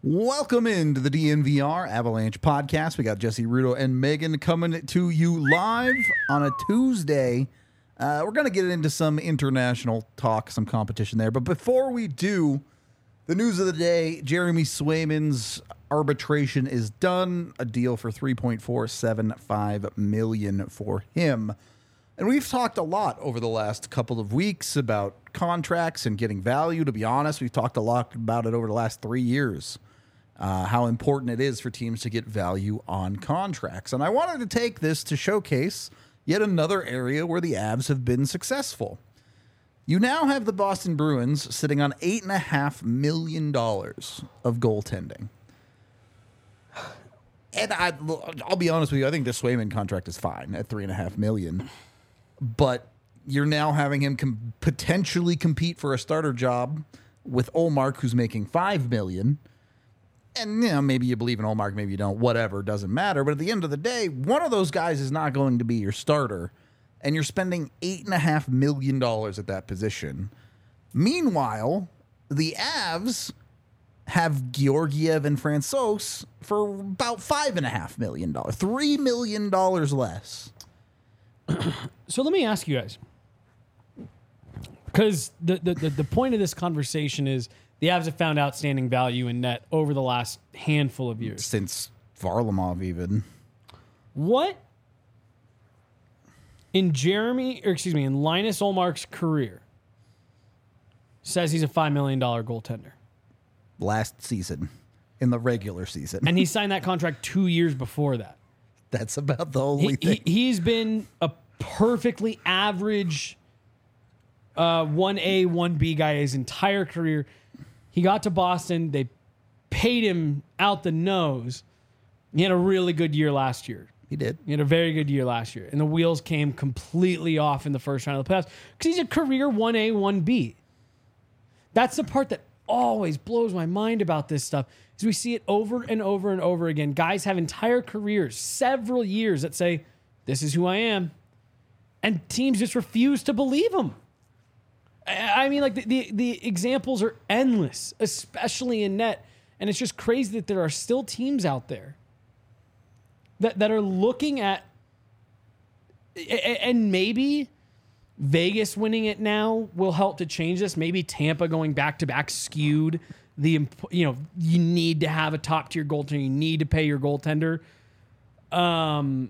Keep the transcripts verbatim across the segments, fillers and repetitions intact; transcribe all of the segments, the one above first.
Welcome into the D N V R Avalanche podcast. We got Jesse Rudo and Megan coming to you live on a Tuesday. Uh, we're going to get into some international talk, some competition there. But before we do, the news of the day, Jeremy Swayman's arbitration is done. A deal for three point four seven five million dollars for him. And we've talked a lot over the last couple of weeks about contracts and getting value. To be honest, we've talked a lot about it over the last three years, uh, how important it is for teams to get value on contracts. And I wanted to take this to showcase yet another area where the Avs have been successful. You now have the Boston Bruins sitting on eight point five million dollars of goaltending. And I, I'll be honest with you, I think the Swayman contract is fine at three point five million dollars. But you're now having him com- potentially compete for a starter job with Ullmark, who's making five million dollars. And, you know, maybe you believe in Ullmark, maybe you don't, whatever, doesn't matter. But at the end of the day, one of those guys is not going to be your starter. And you're spending eight point five million dollars at that position. Meanwhile, the Avs have Georgiev and Francouz for about five point five million dollars, three million dollars less. So let me ask you guys, because the, the, the, the point of this conversation is the Avs have found outstanding value in net over the last handful of years. Since Varlamov even. What in Jeremy, or excuse me, in Linus Ullmark's career says he's a five million dollars goaltender? Last season, in the regular season. And he signed that contract two years before that. That's about the only he, thing. He, he's been a perfectly average uh, one A, one B guy his entire career. He got to Boston. They paid him out the nose. He had a really good year last year. He did. He had a very good year last year. And the wheels came completely off in the first round of the playoffs because he's a career one A, one B. That's the part that always blows my mind about this stuff. Is we see it over and over and over again. Guys have entire careers, several years, that say, this is who I am. And teams just refuse to believe them. I mean, like, the, the, the examples are endless, especially in net. And it's just crazy that there are still teams out there that, that are looking at, and maybe Vegas winning it now will help to change this. Maybe Tampa going back-to-back skewed the, you know, you need to have a top tier goaltender. You need to pay your goaltender. Um,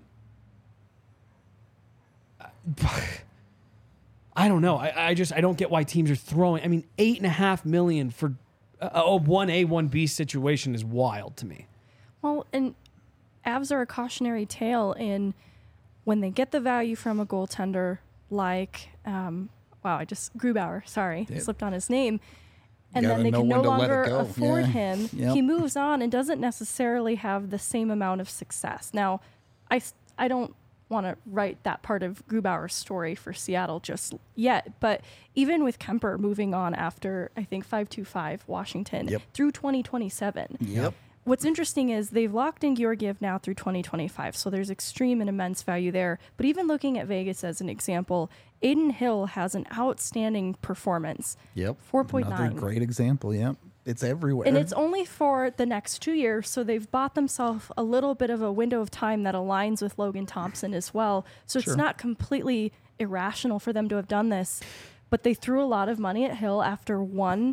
I don't know. I, I just, I don't get why teams are throwing, I mean, eight and a half million for a, a one A, one B situation is wild to me. Well, and Avs are a cautionary tale in when they get the value from a goaltender like, um, wow, I just, Grubauer, sorry, Yep. slipped on his name. And You then they gotta can know no when to let it longer go. afford Yeah. him. Yep. He moves on and doesn't necessarily have the same amount of success. Now, I, s- I don't want to write that part of Grubauer's story for Seattle just yet, but even with Kemper moving on after, I think, five two five Washington Yep. through twenty twenty-seven. Yep. What's interesting is they've locked in Georgiev now through twenty twenty-five, so there's extreme and immense value there. But even looking at Vegas as an example, Aiden Hill has an outstanding performance. Yep. four point nine. Another great example. Yep. It's everywhere. And it's only for the next two years, so they've bought themselves a little bit of a window of time that aligns with Logan Thompson as well. So Sure. it's not completely irrational for them to have done this. But they threw a lot of money at Hill after one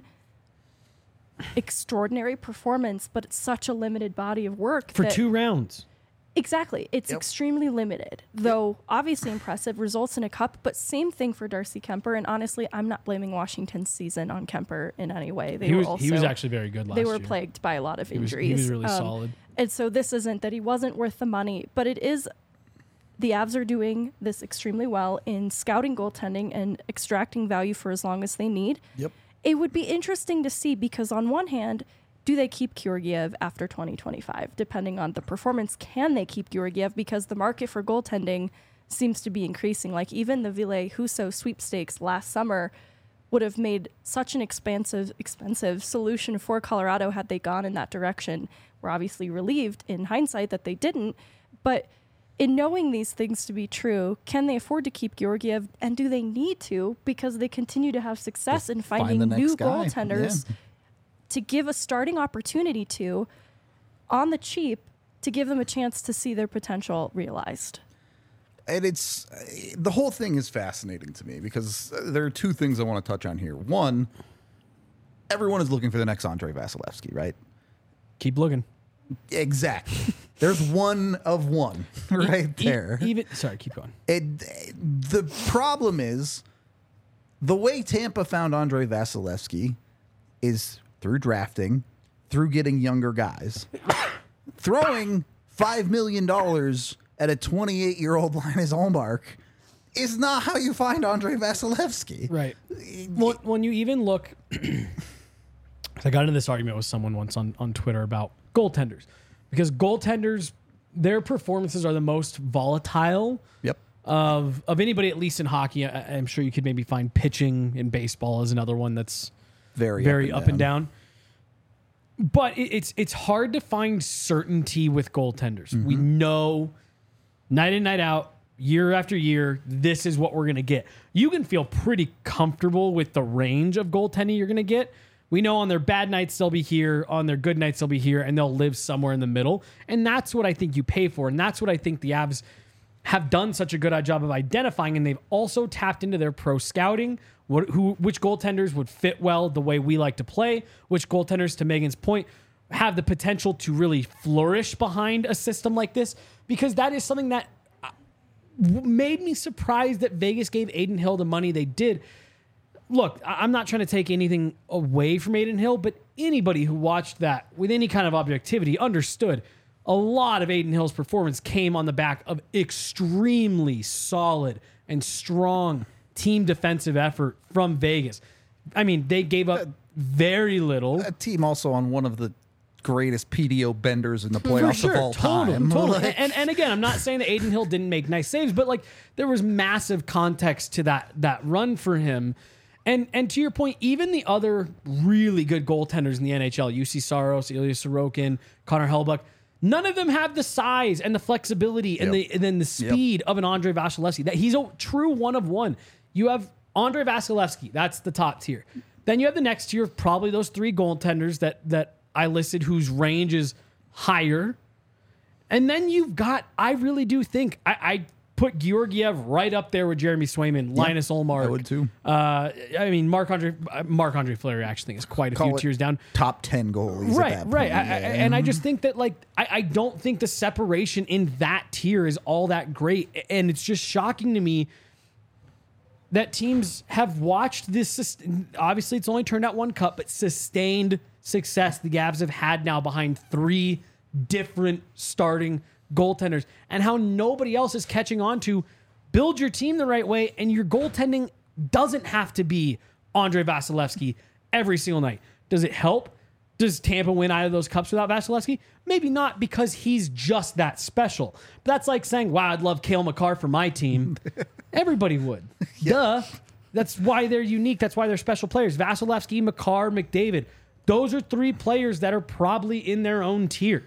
extraordinary performance, but it's such a limited body of work. For that two rounds. Exactly. It's Yep. extremely limited, though obviously impressive, results in a cup, but same thing for Darcy Kemper. And honestly, I'm not blaming Washington's season on Kemper in any way. They He were was, also, he was actually very good last they year. were plagued by a lot of He was, injuries. he was really Um, solid. And so this isn't that he wasn't worth the money, but it is, the Avs are doing this extremely well in scouting goaltending and extracting value for as long as they need. Yep. It would be interesting to see because on one hand, do they keep Georgiev after twenty twenty-five? Depending on the performance, can they keep Georgiev? Because the market for goaltending seems to be increasing. Like even the Ville Husso sweepstakes last summer would have made such an expensive, expensive solution for Colorado had they gone in that direction. We're obviously relieved in hindsight that they didn't. But in knowing these things to be true, can they afford to keep Georgiev? And do they need to? Because they continue to have success in Find finding the next new guy. goaltenders Yeah. to give a starting opportunity to on the cheap to give them a chance to see their potential realized. And it's the whole thing is fascinating to me because there are two things I want to touch on here. One, everyone is looking for the next Andrei Vasilevsky, right? Keep looking. Exactly. There's one of one right E- there. Even sorry, keep going. It, the problem is the way Tampa found Andrei Vasilevsky is through drafting, through getting younger guys, throwing five million dollars at a twenty-eight-year-old Linus Ullmark is not how you find Andrei Vasilevsky. Right. Well, when you even look, I got into this argument with someone once on, on Twitter about goaltenders because goaltenders, their performances are the most volatile Yep. of of anybody, at least in hockey. I, I'm sure you could maybe find pitching in baseball as another one that's Very, very up up and and down. But it, it's it's hard to find certainty with goaltenders. Mm-hmm. We know night in, night out, year after year, this is what we're going to get. You can feel pretty comfortable with the range of goaltending you're going to get. We know on their bad nights, they'll be here. On their good nights, they'll be here, and they'll live somewhere in the middle. And that's what I think you pay for. And that's what I think the Avs have done such a good job of identifying. And they've also tapped into their pro scouting, what, who, which goaltenders would fit well the way we like to play, which goaltenders, to Megan's point, have the potential to really flourish behind a system like this, because that is something that made me surprised that Vegas gave Adin Hill the money they did. Look, I'm not trying to take anything away from Adin Hill, but anybody who watched that with any kind of objectivity understood a lot of Adin Hill's performance came on the back of extremely solid and strong team defensive effort from Vegas. I mean, they gave up very little. A team also on one of the greatest P D O benders in the playoffs For sure, of all totally, time. Totally. Like, and, and again, I'm not saying that Adin Hill didn't make nice saves, but like there was massive context to that that run for him. And and to your point, even the other really good goaltenders in the N H L, U C Saros, Ilya Sorokin, Connor Hellebuyck, none of them have the size and the flexibility and Yep. the and then the speed yep. of an Andrei Vasilevsky. That he's a true one of one. You have Andrei Vasilevsky, that's the top tier. Then you have the next tier of probably those three goaltenders that that I listed whose range is higher. And then you've got, I really do think, I, I put Georgiev right up there with Jeremy Swayman, Linus Ullmark. I would too. Uh, I mean, Marc-Andre Marc-Andre Fleury actually think is quite a Call few it tiers down. Top ten goalies Right, at that right. point. I, I, yeah. and I just think that, like, I, I don't think the separation in that tier is all that great. And it's just shocking to me that teams have watched this. Obviously, it's only turned out one cup, but sustained success the Avs have had now behind three different starting goaltenders, and how nobody else is catching on to build your team the right way, and your goaltending doesn't have to be Andrei Vasilevsky every single night. Does it help? Does Tampa win out of those cups without Vasilevsky? Maybe not, because he's just that special. But that's like saying, wow, I'd love Cale Makar for my team. Everybody would. Yep. Duh. That's why they're unique. That's why they're special players. Vasilevsky, Makar, McDavid. Those are three players that are probably in their own tier.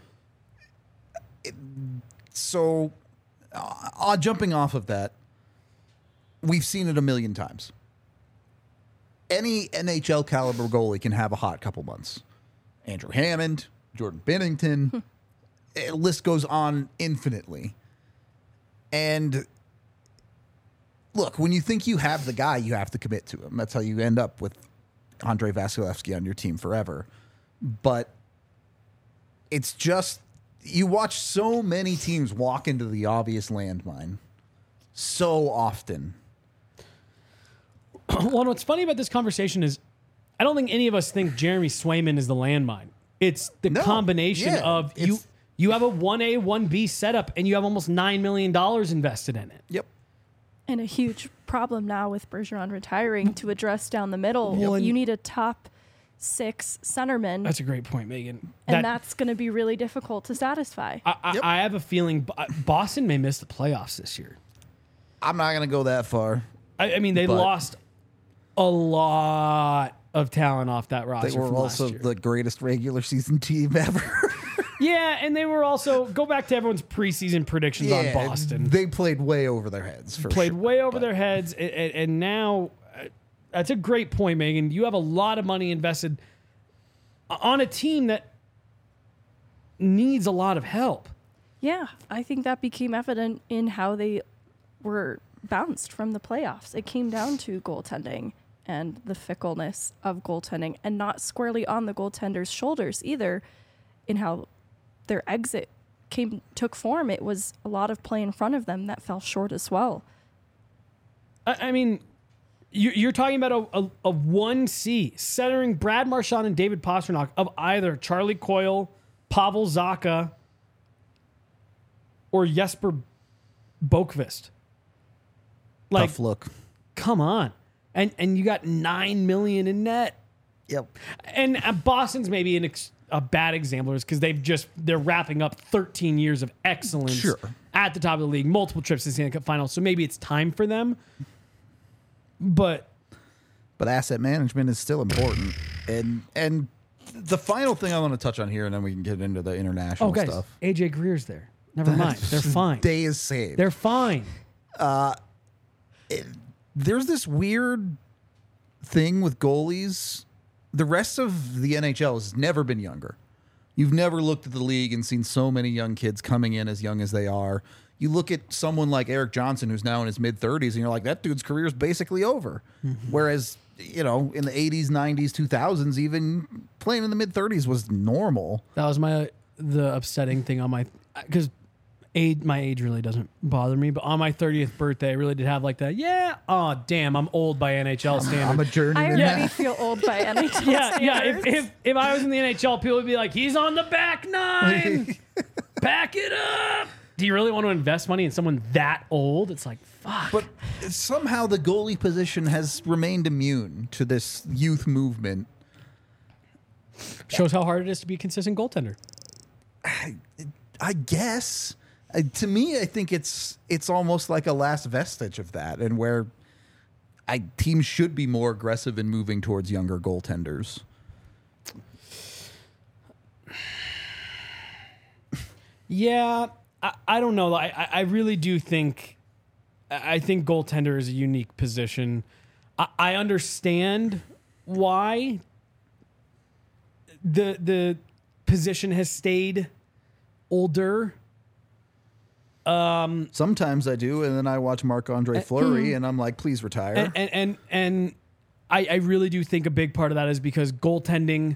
So, uh, jumping off of that, we've seen it a million times. Any N H L caliber goalie can have a hot couple months. Andrew Hammond, Jordan Binnington, the list goes on infinitely. And look, when you think you have the guy, you have to commit to him. That's how you end up with Andrei Vasilevsky on your team forever. But it's just, you watch so many teams walk into the obvious landmine so often. Well, what's funny about this conversation is I don't think any of us think Jeremy Swayman is the landmine. It's the No, combination yeah, of you it's- you have a one A, one B setup, and you have almost nine million dollars invested in it. Yep. And a huge problem now with Bergeron retiring to address down the middle. Well, and- you need a top six centerman, That's a great point, Megan. and That- that's going to be really difficult to satisfy. I, I, Yep. I have a feeling Bo- Boston may miss the playoffs this year. I'm not going to go that far. I, I mean, they But- lost a lot of talent off that roster. They were from last also year. the greatest regular season team ever. Yeah, and they were also, go back to everyone's preseason predictions on Boston. They played way over their heads. For Played sure, way over but- their heads, and, and, and now uh, that's a great point, Megan. You have a lot of money invested. on a team that needs a lot of help. Yeah, I think that became evident in how they were bounced from the playoffs. It came down to goaltending and the fickleness of goaltending, and not squarely on the goaltender's shoulders either, in how their exit came took form. It was a lot of play in front of them that fell short as well. I, I mean, you, you're talking about a, a, a one C centering Brad Marchand and David Pastrnak of either Charlie Coyle, Pavel Zacha, or Jesper Boqvist. Like, Tough look. come on. And and you got nine million in net. Yep. And uh, Boston's maybe an ex- a bad example because they've just they're wrapping up thirteen years of excellence Sure. at the top of the league, multiple trips to the Stanley Cup Finals. So maybe it's time for them. But But asset management is still important. And and the final thing I want to touch on here, and then we can get into the international oh, guys, stuff. A J Greer's there. Never mind, they're fine. Day is saved. They're fine. There's this weird thing with goalies. The rest of the N H L has never been younger. You've never looked at the league and seen so many young kids coming in as young as they are. You look at someone like Eric Johnson, who's now in his mid-thirties, and you're like, that dude's career is basically over. Mm-hmm. Whereas, you know, in the eighties, nineties, two thousands, even playing in the mid-thirties was normal. That was my the upsetting thing on my because age my age really doesn't bother me, but on my thirtieth birthday, I really did have like that. Yeah, oh damn, I'm old by N H L standards. I'm a journeyman. I already feel old by N H L yeah, yeah. If, standards. if if I was in the N H L, people would be like, he's on the back nine. Back it up. Do you really want to invest money in someone that old? It's like, fuck. But somehow the goalie position has remained immune to this youth movement. Shows how hard it is to be a consistent goaltender. I guess. Uh, to me, I think it's it's almost like a last vestige of that, and where I teams should be more aggressive in moving towards younger goaltenders. Yeah, I, I don't know. I, I really do think I think goaltender is a unique position. I, I understand why the the position has stayed older. Um, Sometimes I do, and then I watch Marc-Andre Fleury, and I'm like, please retire. and and and, and I, I really do think a big part of that is because goaltending.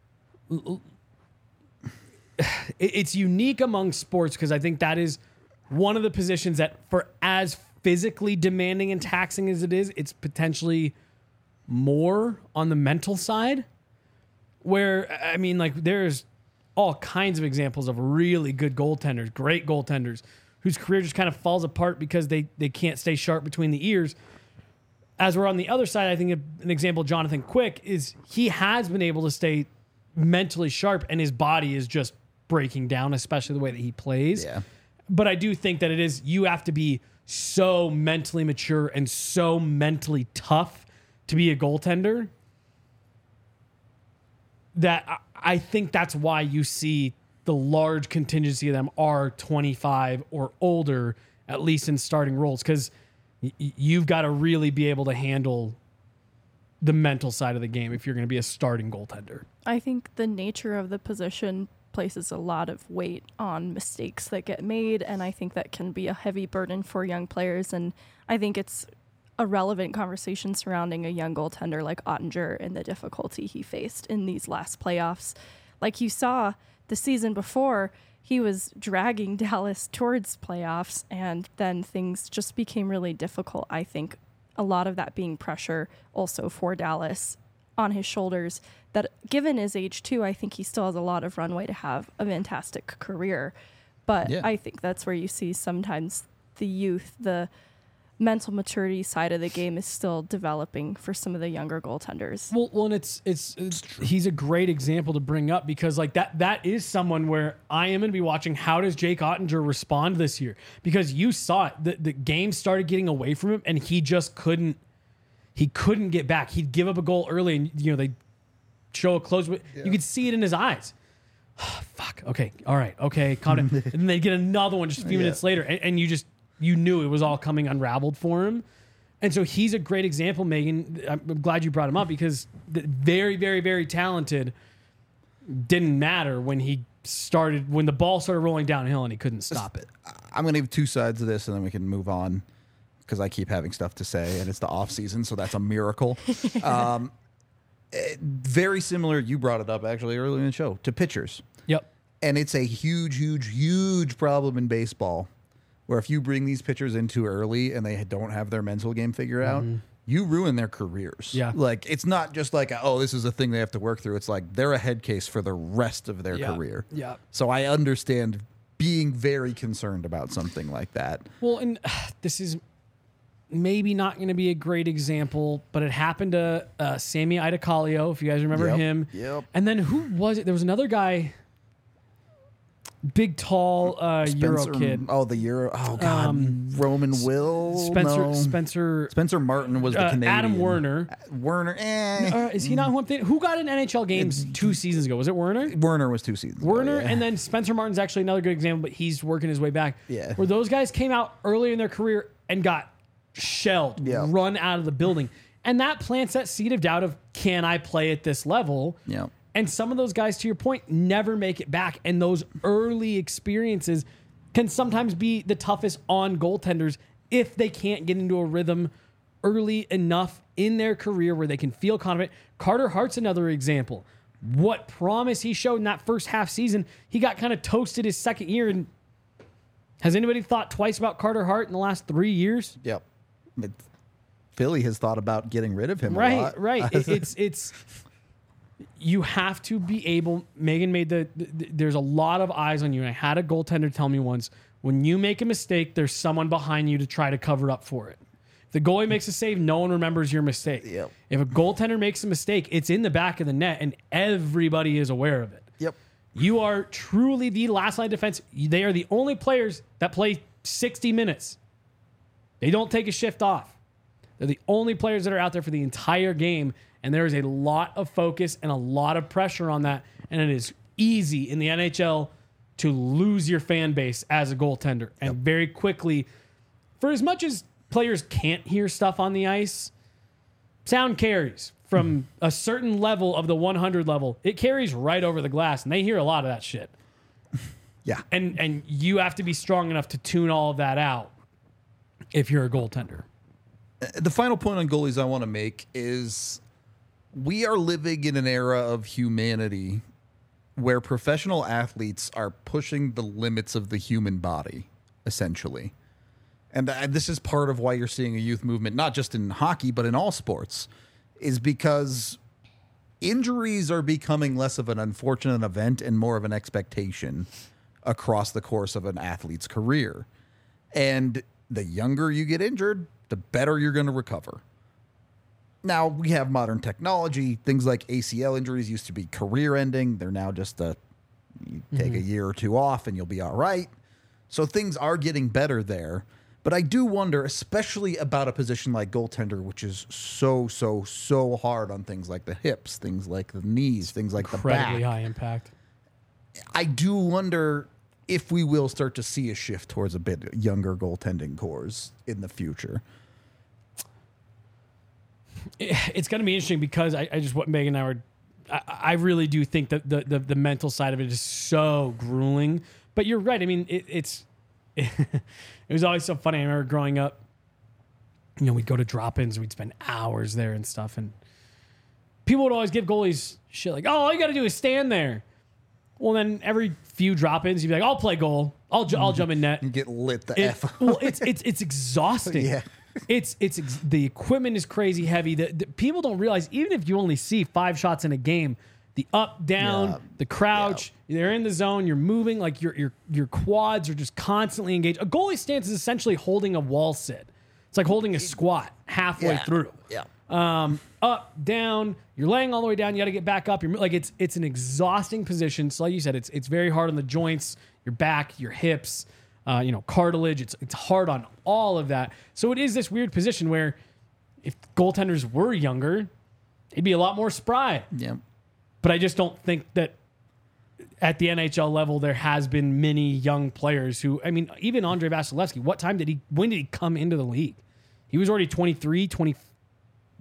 It's unique among sports because I think that is one of the positions that, for as physically demanding and taxing as it is, it's potentially more on the mental side. Where, I mean, like, there's all kinds of examples of really good goaltenders, great goaltenders, whose career just kind of falls apart because they, they can't stay sharp between the ears. As we're on the other side, I think an example, Jonathan Quick, is he has been able to stay mentally sharp, and his body is just breaking down, especially the way that he plays. Yeah. But I do think that it is, you have to be so mentally mature and so mentally tough to be a goaltender that I, I think that's why you see the large contingency of them are twenty-five or older, at least in starting roles, because y- you've got to really be able to handle the mental side of the game if you're going to be a starting goaltender. I think the nature of the position places a lot of weight on mistakes that get made, and I think that can be a heavy burden for young players. And I think it's a relevant conversation surrounding a young goaltender like Ottinger and the difficulty he faced in these last playoffs. Like you saw the season before, he was dragging Dallas towards playoffs, and then things just became really difficult. I think a lot of that being pressure also for Dallas on his shoulders, that given his age too, I think he still has a lot of runway to have a fantastic career. But Yeah. I think that's where you see sometimes the youth, the mental maturity side of the game is still developing for some of the younger goaltenders. Well, well, and it's, it's it's he's a great example to bring up because like that that is someone where I am going to be watching how does Jake Ottinger respond this year, because you saw it, the the game started getting away from him and he just couldn't he couldn't get back. He'd give up a goal early and you know they show a close, but you could see it in his eyes. Fuck. Okay. All right. Okay. Calm down. And then they get another one just a few Yeah. minutes later, and, and you just you knew it was all coming unraveled for him. And so he's a great example, Megan. I'm glad you brought him up because the- very, very, very talented. didn't matter when he started, when the ball started rolling downhill and he couldn't stop it. I'm going to give two sides of this, and then we can move on because I keep having stuff to say, and it's the off season, so that's a miracle. um, it- very similar. You brought it up actually earlier in the show to pitchers, Yep. and it's a huge, huge, huge problem in baseball. Where if you bring these pitchers in too early and they don't have their mental game figured out, you ruin their careers. Yeah. Like, it's not just like, oh, this is a thing they have to work through. It's like they're a head case for the rest of their Yeah. career. Yeah. So I understand being very concerned about something like that. Well, and uh, this is maybe not going to be a great example, but it happened to uh, Sammy Idacalio, if you guys remember Yep. him. Yep. And then who was it? There was another guy, big, tall uh, Euro Spencer- kid. Oh, the Euro. Oh, God. Um, Roman Will. Spencer No. Spencer Spencer Martin was the uh, Canadian. Adam Werner. Werner. Eh. Uh, is he not who I'm thinking? Who got in N H L games two seasons ago? Was it Werner? Werner was two seasons. ago, Werner, yeah. and then Spencer Martin's actually another good example, but he's working his way back. Yeah. Where those guys came out early in their career and got shelled, Yeah. run out of the building. And that plants that seed of doubt of, can I play at this level? Yeah. And some of those guys, to your point, never make it back. And those early experiences can sometimes be the toughest on goaltenders if they can't get into a rhythm early enough in their career where they can feel confident. Carter Hart's another example. What promise he showed in that first half season, he got kind of toasted his second year. And has anybody thought twice about Carter Hart in the last three years? Yep. It- Philly has thought about getting rid of him. a Right, lot. right. It- it's it's you have to be able. Megan made the, the. There's a lot of eyes on you. And I had a goaltender tell me once, when you make a mistake, there's someone behind you to try to cover up for it. If the goalie makes a save, no one remembers your mistake. Yep. If a goaltender makes a mistake, it's in the back of the net, and everybody is aware of it. Yep. You are truly the last line of defense. They are the only players that play sixty minutes. They don't take a shift off. They're the only players that are out there for the entire game, and there is a lot of focus and a lot of pressure on that, and it is easy in the N H L to lose your fan base as a goaltender. And very quickly, for as much as players can't hear stuff on the ice, sound carries from a certain level of the one hundred level. It carries right over the glass, and they hear a lot of that shit. Yeah. And and you have to be strong enough to tune all of that out if you're a goaltender. The final point on goalies I want to make is we are living in an era of humanity where professional athletes are pushing the limits of the human body, essentially. And uh, this is part of why you're seeing a youth movement, not just in hockey, but in all sports, is because injuries are becoming less of an unfortunate event and more of an expectation across the course of an athlete's career. And the younger you get injured, the better you're going to recover. Now, we have modern technology. Things like A C L injuries used to be career ending. They're now just a, you take a year or two off and you'll be all right. So things are getting better there. But I do wonder, especially about a position like goaltender, which is so, so, so hard on things like the hips, things like the knees, things like the Incredibly back. high impact. I do wonder if we will start to see a shift towards a bit younger goaltending cores in the future. It's going to be interesting because I, I just what Megan and I were. I, I really do think that the, the the mental side of it is so grueling. But you're right. I mean, it, it's it, was always so funny. I remember growing up. You know, we'd go to drop-ins. We'd spend hours there and stuff, and people would always give goalies shit like, "Oh, all you got to do is stand there." Well, then every few drop-ins, you'd be like, "I'll play goal. I'll ju- I'll jump in net." You get lit the It- F up. well, it's it's it's exhausting. Yeah. It's it's ex- the equipment is crazy heavy. The, the people don't realize even if you only see five shots in a game, the up down, Yeah. the crouch, they're in the zone, you're moving like your your your quads are just constantly engaged. A goalie stance is essentially holding a wall sit. It's like holding a squat halfway Yeah. through. Yeah. Um, up, down, you're laying all the way down. You got to get back up. You're like it's it's an exhausting position. So like you said, it's it's very hard on the joints, your back, your hips, uh, you know, cartilage. It's it's hard on all of that. So it is this weird position where if goaltenders were younger, they'd be a lot more spry. Yeah. But I just don't think that at the N H L level there has been many young players who. I mean, even Andrei Vasilevsky. What time did he? When did he come into the league? He was already twenty-three, twenty-four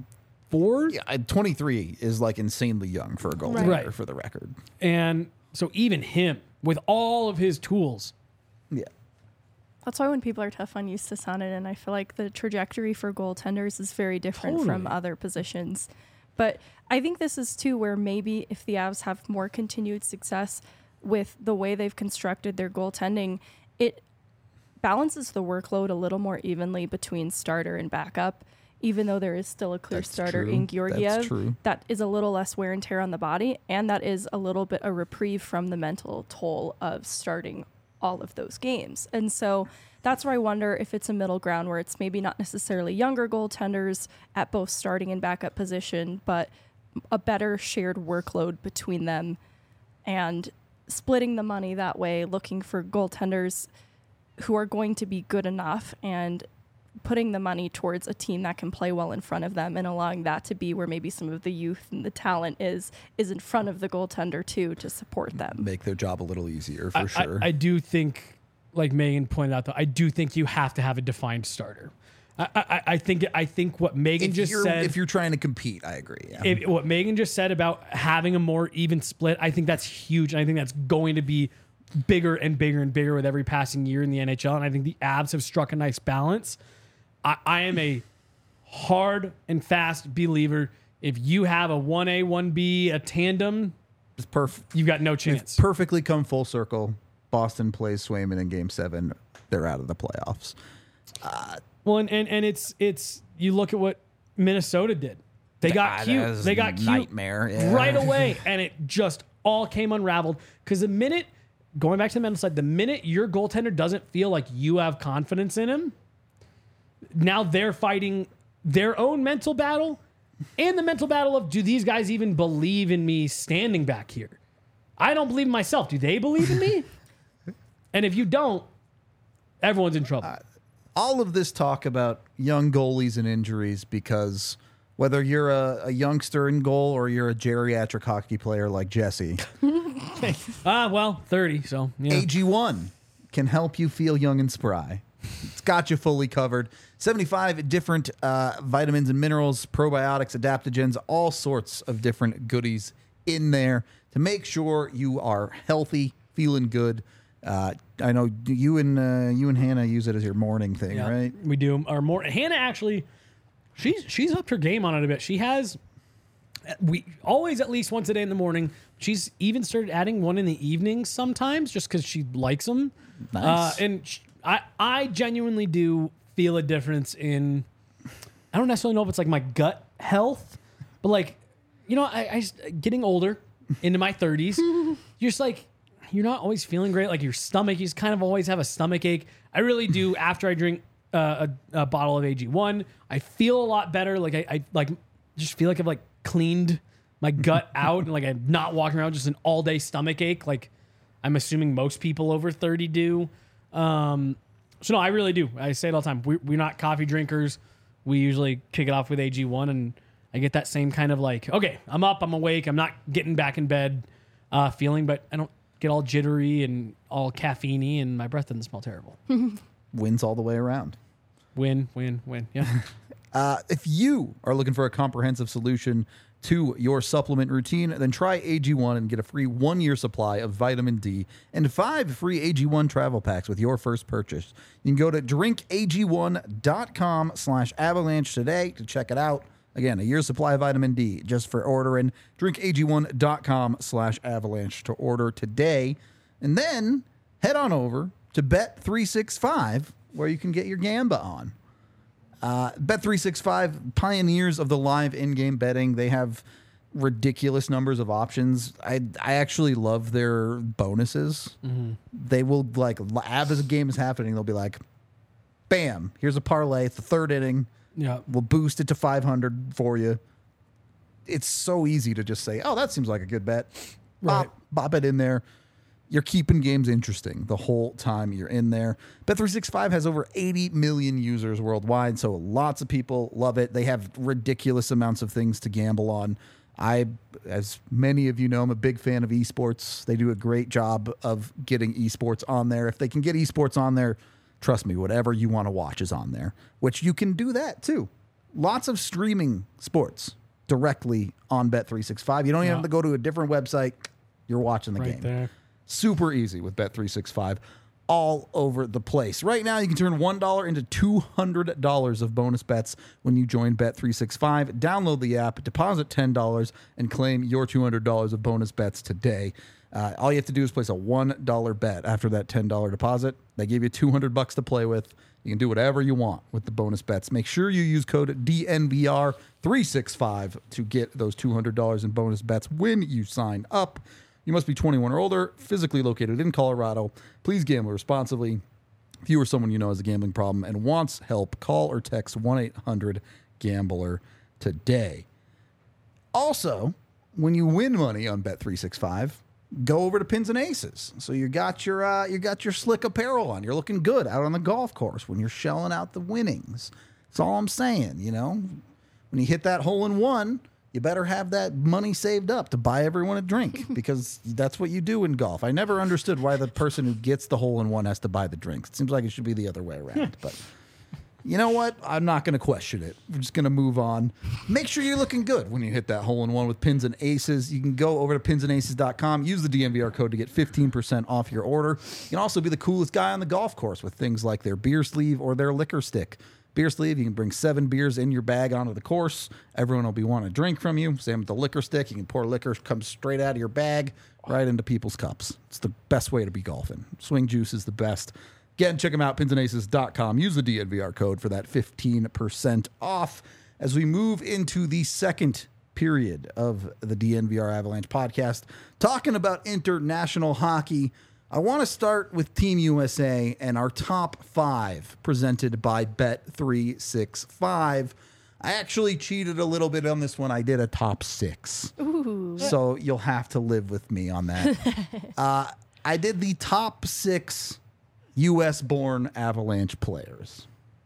twenty-four. Yeah, twenty-three is like insanely young for a goaltender, Right. for the record. And so even him, with all of his tools, Yeah. That's why when people are tough on Justus Sananen, I feel like the trajectory for goaltenders is very different from Totally. other positions. But I think this is too where maybe if the Avs have more continued success with the way they've constructed their goaltending, it balances the workload a little more evenly between starter and backup. Even though there is still a clear That's starter true. in That's Georgiev, true. that is a little less wear and tear on the body, and that is a little bit a reprieve from the mental toll of starting all of those games. And so that's where I wonder if it's a middle ground where it's maybe not necessarily younger goaltenders at both starting and backup position, but a better shared workload between them and splitting the money that way, looking for goaltenders who are going to be good enough and putting the money towards a team that can play well in front of them and allowing that to be where maybe some of the youth and the talent is is in front of the goaltender too to support them. Make their job a little easier for I, sure. I, I do think, like Megan pointed out, though, I do think you have to have a defined starter. I, I, I think I think what Megan if just you're, said. if you're trying to compete, I agree. Yeah. if, what Megan just said about having a more even split, I think that's huge. And I think that's going to be bigger and bigger and bigger with every passing year in the N H L. And I think the Avs have struck a nice balance. I, I am a hard and fast believer. If you have a one A, one B, a tandem, It's perfect. you've got no chance. Perfectly come full circle. Boston plays Swayman in Game Seven. They're out of the playoffs. Well, and, and, and it's it's you look at what Minnesota did. They got That cute. is They got cute nightmare. Yeah. right away, and it just all came unraveled. Because the minute, going back to the mental side, the minute your goaltender doesn't feel like you have confidence in him, now they're fighting their own mental battle and the mental battle of, do these guys even believe in me standing back here? I don't believe in myself. Do they believe in me? And if you don't, everyone's in trouble. All of this talk about young goalies and injuries, because whether you're a, a youngster in goal or you're a geriatric hockey player like Jesse, Ah, well, thirty, so yeah. A G one can help you feel young and spry. It's got you fully covered. seventy-five different uh, vitamins and minerals, probiotics, adaptogens, all sorts of different goodies in there to make sure you are healthy, feeling good. Uh, I know you and uh, you and Hannah use it as your morning thing, Yeah, right? We do. Our more Hannah actually, she's she's upped her game on it a bit. She has we always at least once a day in the morning. She's even started adding one in the evenings sometimes, just because she likes them. Nice. Uh, and sh I I genuinely do feel a difference in. I don't necessarily know if it's like my gut health, but like, you know, I, I just, getting older into my thirties, you're just like, you're not always feeling great. Like your stomach, you just kind of always have a stomach ache. I really do. After I drink uh, a, a bottle of A G one, I feel a lot better. Like I, I like just feel like I've like cleaned my gut out and like I'm not walking around just an all day stomach ache. Like I'm assuming most people over thirty do. Um, so no, I really do. I say it all the time. We, we're not coffee drinkers. We usually kick it off with A G one, and I get that same kind of like, okay, I'm up, I'm awake, I'm not getting back in bed uh, feeling, but I don't get all jittery and all caffeine-y, and my breath doesn't smell terrible. Wins all the way around. Win, win, win. Yeah. Uh, if you are looking for a comprehensive solution to your supplement routine, then try A G one and get a free one-year supply of vitamin D and five free A G one travel packs with your first purchase. You can go to drink A G one dot com slash avalanche today to check it out. Again, a year's supply of vitamin D just for ordering. drink A G one dot com slash avalanche to order today. And then head on over to Bet three sixty-five where you can get your Gamba on. Uh, Bet three sixty-five, pioneers of the live in-game betting. They have ridiculous numbers of options. I I actually love their bonuses. Mm-hmm. They will, like, as a game is happening, they'll be like, bam, here's a parlay. It's the third inning. Yeah. We'll boost it to five hundred for you. It's so easy to just say, oh, that seems like a good bet. Bop, Right. bop it in there. You're keeping games interesting the whole time you're in there. Bet three sixty-five has over eighty million users worldwide, so lots of people love it. They have ridiculous amounts of things to gamble on. I, as many of you know, I'm a big fan of esports. They do a great job of getting esports on there. If they can get esports on there, trust me, whatever you want to watch is on there, which you can do that too. lots of streaming sports directly on Bet three sixty-five. You don't even Yeah. have to go to a different website. You're watching the Right game. there. Super easy with Bet three sixty-five all over the place. Right now, you can turn one dollar into two hundred dollars of bonus bets when you join Bet three sixty-five. Download the app, deposit ten dollars, and claim your two hundred dollars of bonus bets today. Uh, all you have to do is place a one dollar bet after that ten dollars deposit. They give you two hundred bucks to play with. You can do whatever you want with the bonus bets. Make sure you use code D N V R three sixty-five to get those two hundred dollars in bonus bets when you sign up. You must be twenty-one or older, physically located in Colorado. Please gamble responsibly. If you or someone you know has a gambling problem and wants help, call or text one eight hundred gambler today. Also, when you win money on Bet three sixty-five, go over to Pins and Aces. So you got your uh, you got your slick apparel on. You're looking good out on the golf course when you're shelling out the winnings. That's all I'm saying, you know. When you hit that hole in one, you better have that money saved up to buy everyone a drink because that's what you do in golf. I never understood why the person who gets the hole in one has to buy the drinks. It seems like it should be the other way around, but you know what? I'm not going to question it. We're just going to move on. Make sure you're looking good when you hit that hole in one with Pins and Aces. You can go over to pins and aces dot com, use the D N V R code to get fifteen percent off your order. You can also be the coolest guy on the golf course with things like their beer sleeve or their liquor stick. Beer sleeve, you can bring seven beers in your bag onto the course. Everyone will be wanting a drink from you. Same with the liquor stick. You can pour liquor, comes straight out of your bag, right into people's cups. It's the best way to be golfing. Swing juice is the best. Get and check them out, pins and aces dot com. Use the D N V R code for that fifteen percent off. As we move into the second period of the D N V R Avalanche podcast, talking about international hockey, I want to start with Team U S A and our top five presented by Bet three sixty-five. I actually cheated a little bit on this one. I did a top six. Ooh. So you'll have to live with me on that. uh, I did the top six U S-born Avalanche players.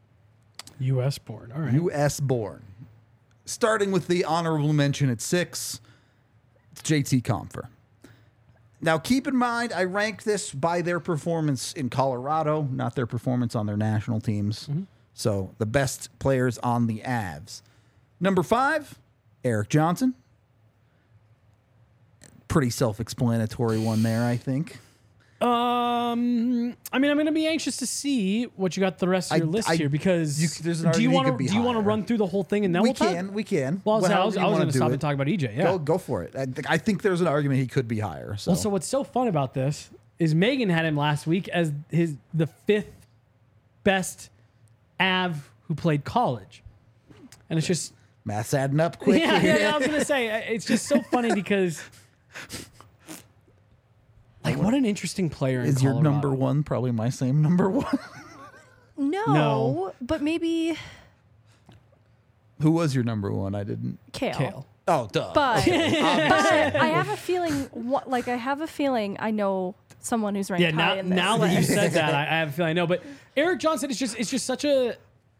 U S born. All right. U S-born. Starting with the honorable mention at six, it's J T Compher. Now, keep in mind, I rank this by their performance in Colorado, not their performance on their national teams. Mm-hmm. So, the best players on the Avs. Number five, Erik Johnson. Pretty self-explanatory one there, I think. Um, I mean, I'm going to be anxious to see what you got the rest of your I- list I- here because you- there's an do you argument he want could to be do you want to higher. run through the whole thing and then we we'll talk? can, we can. Well, so I However was, you I was wanna going to do stop it. and talk about E J. Yeah. Go, go for it. I, th- I think there's an argument he could be higher. So, Well, so what's so fun about this is Megan had him last week as his the fifth best Av who played college, and it's just math's adding up quick. yeah, yeah, yeah. I was gonna say uh, it's just so funny because like what an interesting player in Is your Colorado. number one probably my same number one? No, No. but maybe Who was your number one? I didn't. Kale. Kale. Oh, duh. But, but I have a feeling, what, like I have a feeling I know someone who's ranked Yeah, now, high in this now that you list. said that, I, I have a feeling I know. But Erik Johnson is just it's just such a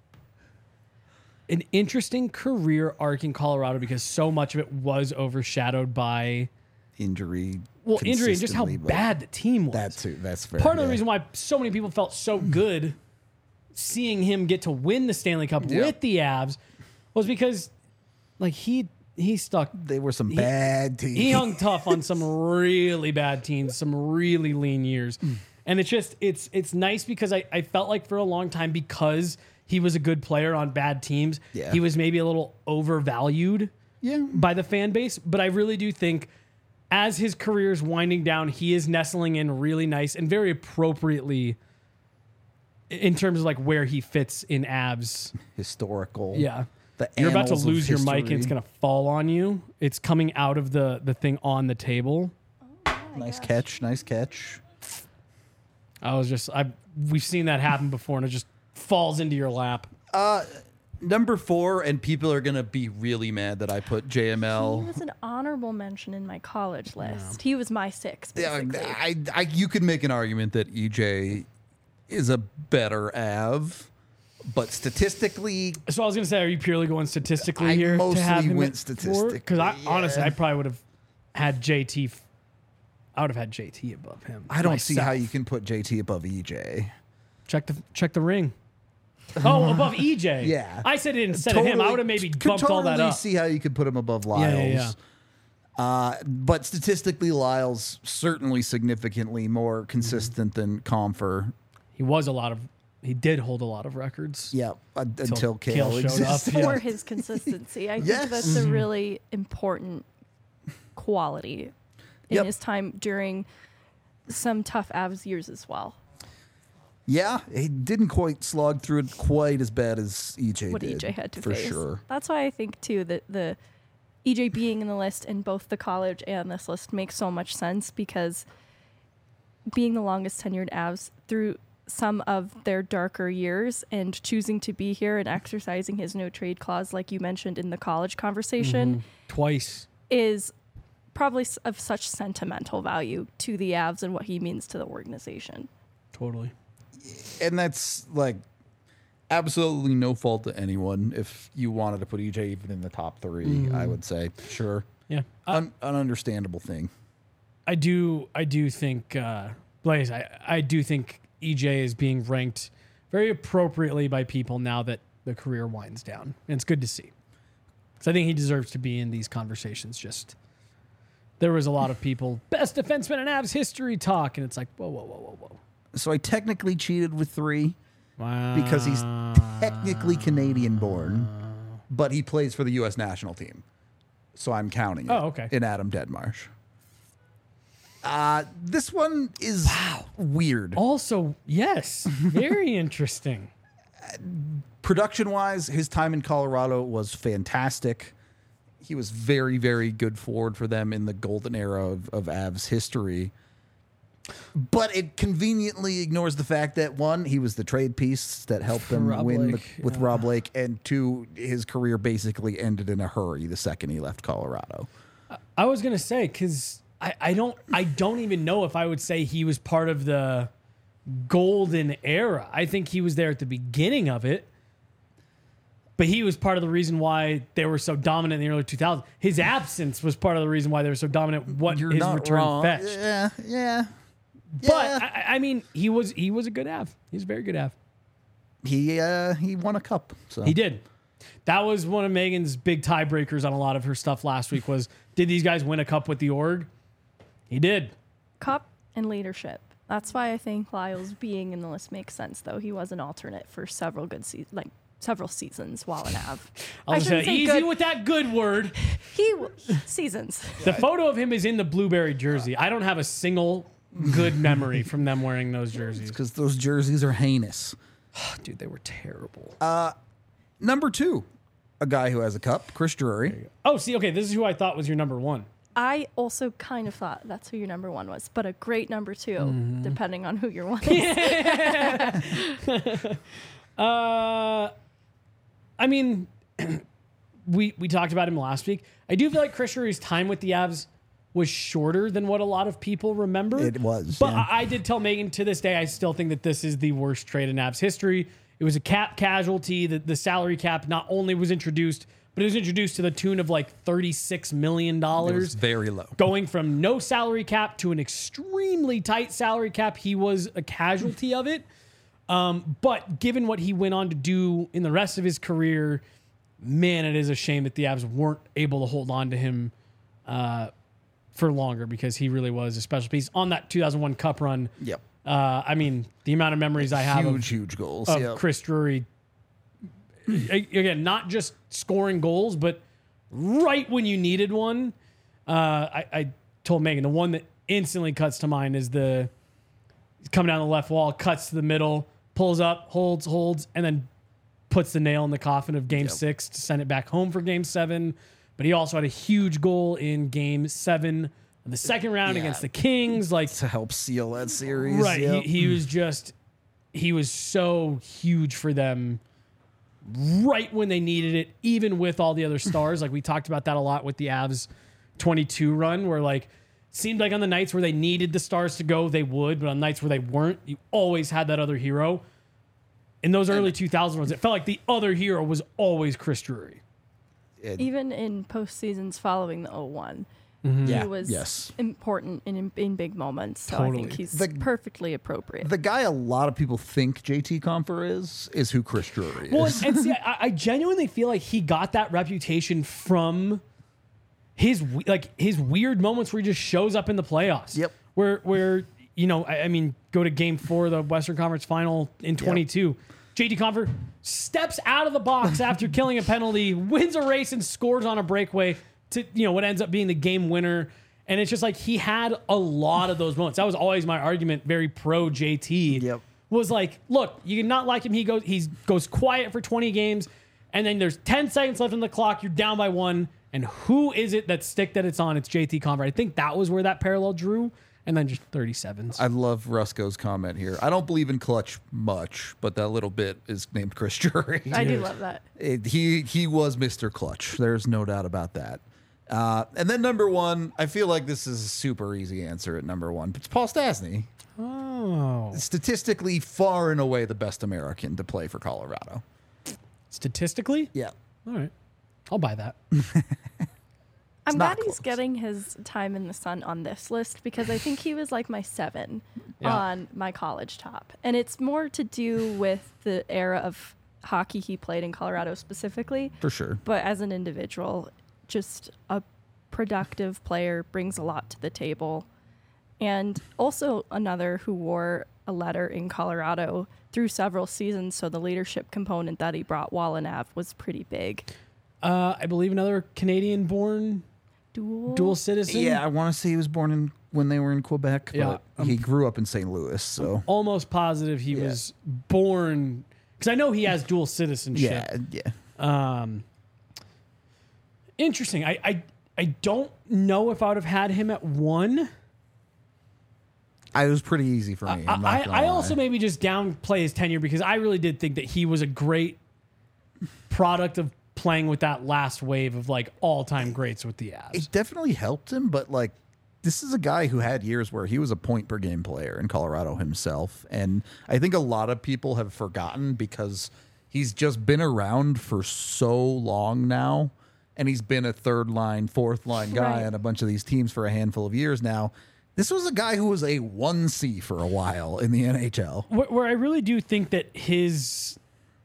an interesting career arc in Colorado because so much of it was overshadowed by Injury. well injury and just how consistently, but bad the team was. That too. That's fair. Part of the yeah. reason why so many people felt so good seeing him get to win the Stanley Cup Yeah. with the Avs was because like he he stuck they were some bad teams. he hung tough on some really bad teams, some really lean years. And it's just it's it's nice because I, I felt like for a long time because he was a good player on bad teams, Yeah. he was maybe a little overvalued yeah. by the fan base. But I really do think as his career is winding down, he is nestling in really nice and very appropriately in terms of like where he fits in Avs. Historical. Yeah. The You're about to annals of lose your mic and it's history. going to fall on you. It's coming out of the, the thing on the table. Nice catch. Nice catch. I was just, I we've seen that happen before and it just falls into your lap. Number four, and people are gonna be really mad that I put J M He L. was an honorable mention in my college list. He was my six, Yeah, basically. I, I, you could make an argument that E J is a better Av, but statistically, So I was going to say, are you purely going statistically I here? mostly to have him went at statistically, Because I honestly, yeah. I probably would have had J T. f- I would have had J T above him. I don't see how myself. you can put J T above E J. check the check the ring. Oh, above E J. Yeah. I said it instead of him. I would have maybe could bumped all that totally up. see how you could put him above Lyles. Yeah, yeah, yeah. Uh, but statistically, Lyles certainly significantly more consistent than Comfer. He was a lot of. He did hold a lot of records. Yeah, uh, until Kale Kale showed exists. up. For Yeah. his consistency. I Yes. think that's a really important quality in Yep. his time during some tough Avs years as well. Yeah, he didn't quite slog through it quite as bad as E J What did. E J had to for face. sure. That's why I think too that the E J being in the list in both the college and this list makes so much sense because being the longest tenured Avs through some of their darker years and choosing to be here and exercising his no trade clause, like you mentioned in the college conversation, Twice. is probably s- of such sentimental value to the Avs and what he means to the organization. Totally. And that's like absolutely no fault to anyone. If you wanted to put E J even in the top three, I would say sure. Yeah. I, Un- an understandable thing. I do. I do think uh, Blaze. I, I do think E J is being ranked very appropriately by people now that the career winds down, and it's good to see. So I think he deserves to be in these conversations. Just there was a lot of people best defenseman in Avs history talk, and it's like whoa, whoa, whoa, whoa, whoa. So I technically cheated with three Wow. because he's technically Canadian born, but he plays for the U S national team. So I'm counting it Oh, okay. in Adam Deadmarsh. Uh, this one is weird. Also, yes, very interesting. Production wise, his time in Colorado was fantastic. He was very, very good forward for them in the golden era of, of Avs history. But it conveniently ignores the fact that one, he was the trade piece that helped them Rob win the, Blake, with yeah. Rob Lake, and two, his career basically ended in a hurry the second he left Colorado. I was gonna say because I, I don't I don't even know if I would say he was part of the golden era. I think he was there at the beginning of it, but he was part of the reason why they were so dominant in the early two thousands. His absence was part of the reason why they were so dominant. What You're his not return wrong. fetched, Yeah, yeah. but Yeah. I, I mean, he was he was a good Av. He's a very good Av. he uh, he won a cup. So He did. That was one of Megan's big tiebreakers on a lot of her stuff last week. Was did these guys win a cup with the org? He did. Cup and leadership. That's why I think Lyles being in the list makes sense, though. He was an alternate for several good seasons, like several seasons while in Av. I was shouldn't gonna say, say easy good. with that good word. He w- seasons. The photo of him is in the blueberry jersey. I don't have a single good memory from them wearing those jerseys. because those jerseys are heinous. Dude, they were terrible. Number two, a guy who has a cup, Chris Drury. oh, see, okay, this is who I thought was your number one. I also kind of thought that's who your number one was, but a great number two, Mm-hmm. depending on who your one is. Uh, I mean, we we talked about him last week. I do feel like Chris Drury's time with the Avs was shorter than what a lot of people remember. It was, But yeah. I, I did tell Megan to this day, I still think that this is the worst trade in Avs history. It was a cap casualty. The, the salary cap not only was introduced, but it was introduced to the tune of like thirty-six million It dollars. was very low. Going from no salary cap to an extremely tight salary cap, he was a casualty of it. Um, but given what he went on to do in the rest of his career, man, it is a shame that the Avs weren't able to hold on to him uh, for longer because he really was a special piece on that two thousand one Cup run. Yep. Uh, I mean, the amount of memories I have Huge, of, huge goals. of Yep. Chris Drury, a- again, not just scoring goals, but right when you needed one. Uh, I, I told Megan the one that instantly cuts to mind is the coming down the left wall, cuts to the middle, pulls up, holds, holds, and then puts the nail in the coffin of game Yep. six to send it back home for game seven. But he also had a huge goal in game seven of the second round Yeah. against the Kings. Like, to help seal that series. right. Yep. He, he was just, he was so huge for them right when they needed it, even with all the other stars. Like we talked about that a lot with the Avs twenty-two run, where like seemed like on the nights where they needed the stars to go, they would, but on nights where they weren't, you always had that other hero. In those early two thousand runs, it felt like the other hero was always Chris Drury. It- Even in post seasons following the oh one, Yeah, He was yes. important in in big moments. So I Totally. think he's The- perfectly appropriate. The guy a lot of people think J T Comfer is is who Chris Drury is. Well, and, and see, I, I genuinely feel like he got that reputation from his we- like his weird moments where he just shows up in the playoffs. Yep. Where where you know, I, I mean, go to Game Four of the Western Conference Final in twenty-two. J T Comfer steps out of the box after killing a penalty, wins a race, and scores on a breakaway to, you know, what ends up being the game winner. And it's just like he had a lot of those moments. That was always my argument, very pro J T. Yep. Was like, look, you can not like him. He goes, he goes quiet for twenty games, and then there's ten seconds left on the clock. You're down by one, and who is it that stick that it's on? It's J T Comfer. I think that was where that parallel drew. And then just thirty-sevens. I love Rusko's comment here. I don't believe in clutch much, but that little bit is named Chris Drury. I do love that. It- he he was Mister Clutch. There's no doubt about that. Uh, and then number one, I feel like this is a super easy answer at number one. It's Paul Stastny. Oh. Statistically, far and away the best American to play for Colorado. Statistically? Yeah. All right. I'll buy that. I'm not glad he's close. getting his time in the sun on this list because I think he was like my seven Yeah. on my college top. And it's more to do with the era of hockey he played in Colorado specifically. For sure. But as an individual, just a productive player, brings a lot to the table. And also another who wore a letter in Colorado through several seasons. So the leadership component that he brought while in Av was pretty big. Uh, I believe another Canadian-born Dual. dual citizen. Yeah, I want to say he was born in when they were in Quebec, but Yeah, um, he grew up in Saint Louis. So Almost positive he Yeah. was born, because I know he has dual citizenship. yeah, yeah. Um, interesting. I, I I don't know if I would have had him at one. I, it was pretty easy for me. I'm not I, gonna I lie. also maybe just downplay his tenure because I really did think that he was a great product of playing with that last wave of like all-time greats with the Avs. it definitely helped him, but like this is a guy who had years where he was a point per game player in Colorado himself. And I think a lot of people have forgotten because he's just been around for so long now. And he's been a third line, fourth line guy Right. on a bunch of these teams for a handful of years now. This was a guy who was a one C for a while in the N H L. Where, where I really do think that his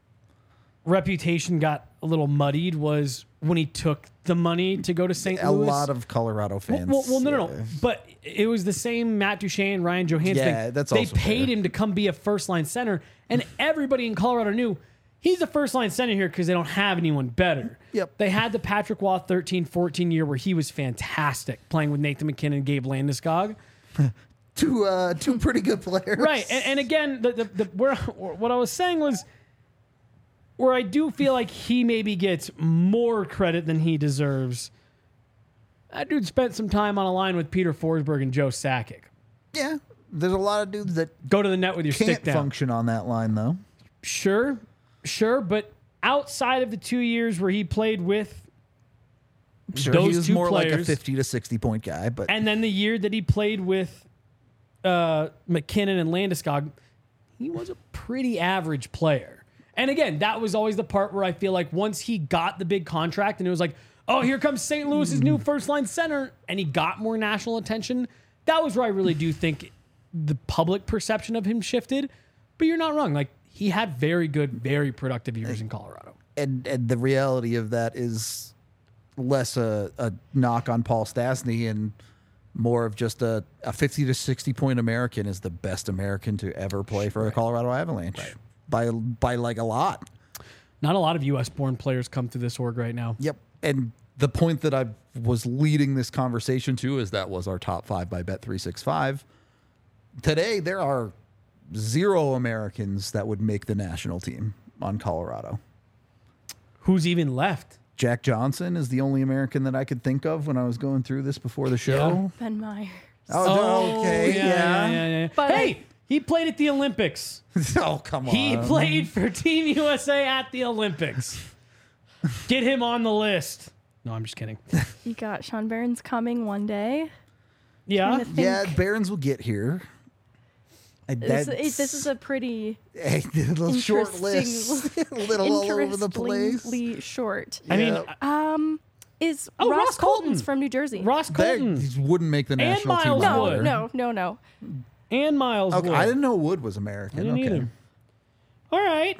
reputation got a little muddied was when he took the money to go to Saint A Louis. lot of Colorado Well, fans. well, well, no, no, no. yeah. But it was the same Matt Duchene, Ryan Johansson Yeah, thing. that's they also paid fair. him to come be a first line center, and everybody in Colorado knew he's the first line center here because they don't have anyone better. Yep. They had the Patrick Waugh thirteen fourteen year where he was fantastic playing with Nathan McKinnon and Gabe Landeskog. Two, uh, two pretty good players. Right. And, and again, the, the, the, where, what I was saying was where I do feel like he maybe gets more credit than he deserves. That dude spent some time on a line with Peter Forsberg and Joe Sakic. Yeah. There's a lot of dudes that Go to the net with your can't stick down. function on that line, though. Sure, sure, but outside of the two years where he played with Sure, those he was two more like a players, fifty to sixty point guy, but and then the year that he played with uh, McKinnon and Landeskog, he was a pretty average player. And again, that was always the part where I feel like once he got the big contract and it was like, oh, here comes Saint Louis's new first line center, and he got more national attention, that was where I really do think the public perception of him shifted. But you're not wrong. Like, he had very good, very productive years in Colorado. and and the reality of that is less a, a knock on Paul Stastny and more of just a, a fifty to sixty point American is the best American to ever play for a Colorado Avalanche by by like a lot. Not a lot of U S born players come through this org right now. Yep. And the point that I was leading this conversation to is that was our top five by Bet three sixty-five. Today, there are zero Americans that would make the national team on Colorado. Who's even left? Jack Johnson is the only American that I could think of when I was going through this before the show. Ben Myers. Oh, okay. yeah, yeah, yeah, yeah. But hey, he played at the Olympics. oh, come on. He played for Team U S A at the Olympics. Get him on the list. No, I'm just kidding. You got Sean Barron's coming one day. Yeah. Trying to think. Yeah, Barons will get here. And This, that's- this is a pretty a little short interesting- list. a little all over the place. interestingly short. I mean, Yeah. Um, is Oh, Ross, Ross Colton's Colton. from New Jersey. Ross They Colton he wouldn't make the national team. Miles no, Wood. no, no, no. and Miles Okay, Wood. I didn't know Wood was American. I didn't okay. either. All right.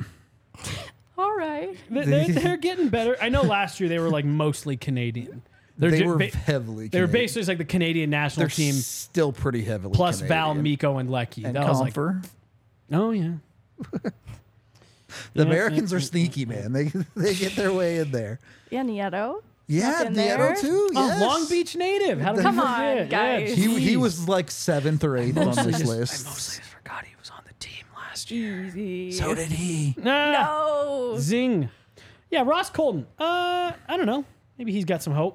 All right. They- They're, they're getting better. I know last year they were like mostly Canadian. They're They ju- were ba- heavily. They were Canadian. basically just like the Canadian national They're team still pretty heavily plus Val, Canadian. Miko, and Lecky. and that was like, Comfer. oh yeah. The Yeah, Americans yeah, are yeah, sneaky, man. They they get their way in there. Yeah, Nieto. Yeah, in Nieto there. too. Oh, Yes. Long Beach native. How did Come we on, forget? guys. Yeah, He he jeez. was like seventh or eighth on Mostly this just- list. I mostly just forgot he was on the team last year. Easy. So did he. Nah. No. Zing. Yeah, Ross Colton. Uh, I don't know. Maybe he's got some hope.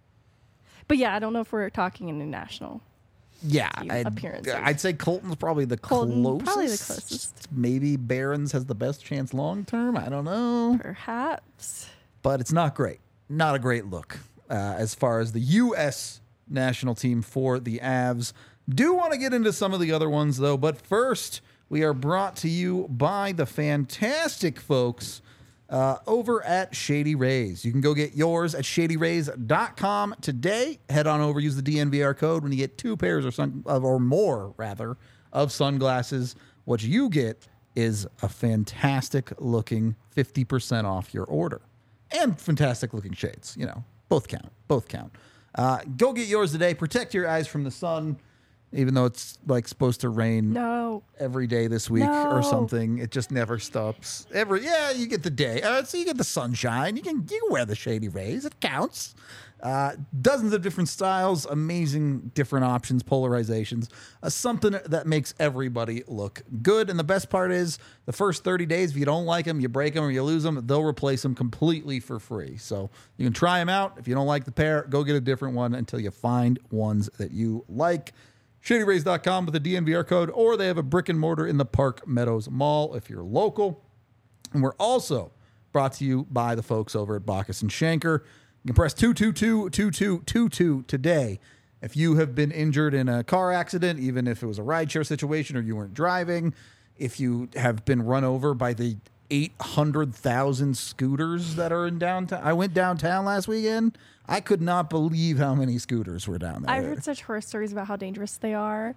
But yeah, I don't know if we're talking international. Yeah, Team I'd, appearances. I'd say Colton's probably the Colton, closest. probably the closest. Maybe Barron's has the best chance long term. I don't know, Perhaps. but it's not great. Not a great look uh, as far as the U S national team for the Avs. Do want to get into some of the other ones though, but first we are brought to you by the fantastic folks Uh, over at Shady Rays. You can go get yours at shady rays dot com today. Head on over, use the D N V R code when you get two pairs or sun, of, or more rather of sunglasses. What you get is a fantastic looking fifty percent off your order and fantastic looking shades. You know, both count. Both count. Uh, go get yours today. Protect your eyes from the sun, even though it's like supposed to rain No. every day this week or No. something. It just never stops. Every yeah, you get the day. Uh, so you get the sunshine. You can you can wear the Shady Rays. It counts. Uh, dozens of different styles, amazing different options, polarizations. Uh, something that makes everybody look good. And the best part is the first thirty days, if you don't like them, you break them or you lose them, they'll replace them completely for free. So you can try them out. If you don't like the pair, go get a different one until you find ones that you like. shady rays dot com with the D N V R code, or they have a brick and mortar in the Park Meadows Mall if you're local. And we're also brought to you by the folks over at Bacchus and Schenker. You can press two two two, two two two two today. If you have been injured in a car accident, even if it was a rideshare situation or you weren't driving, if you have been run over by the eight hundred thousand scooters that are in downtown. I went downtown last weekend. I could not believe how many scooters were down there. I've heard such horror stories about how dangerous they are,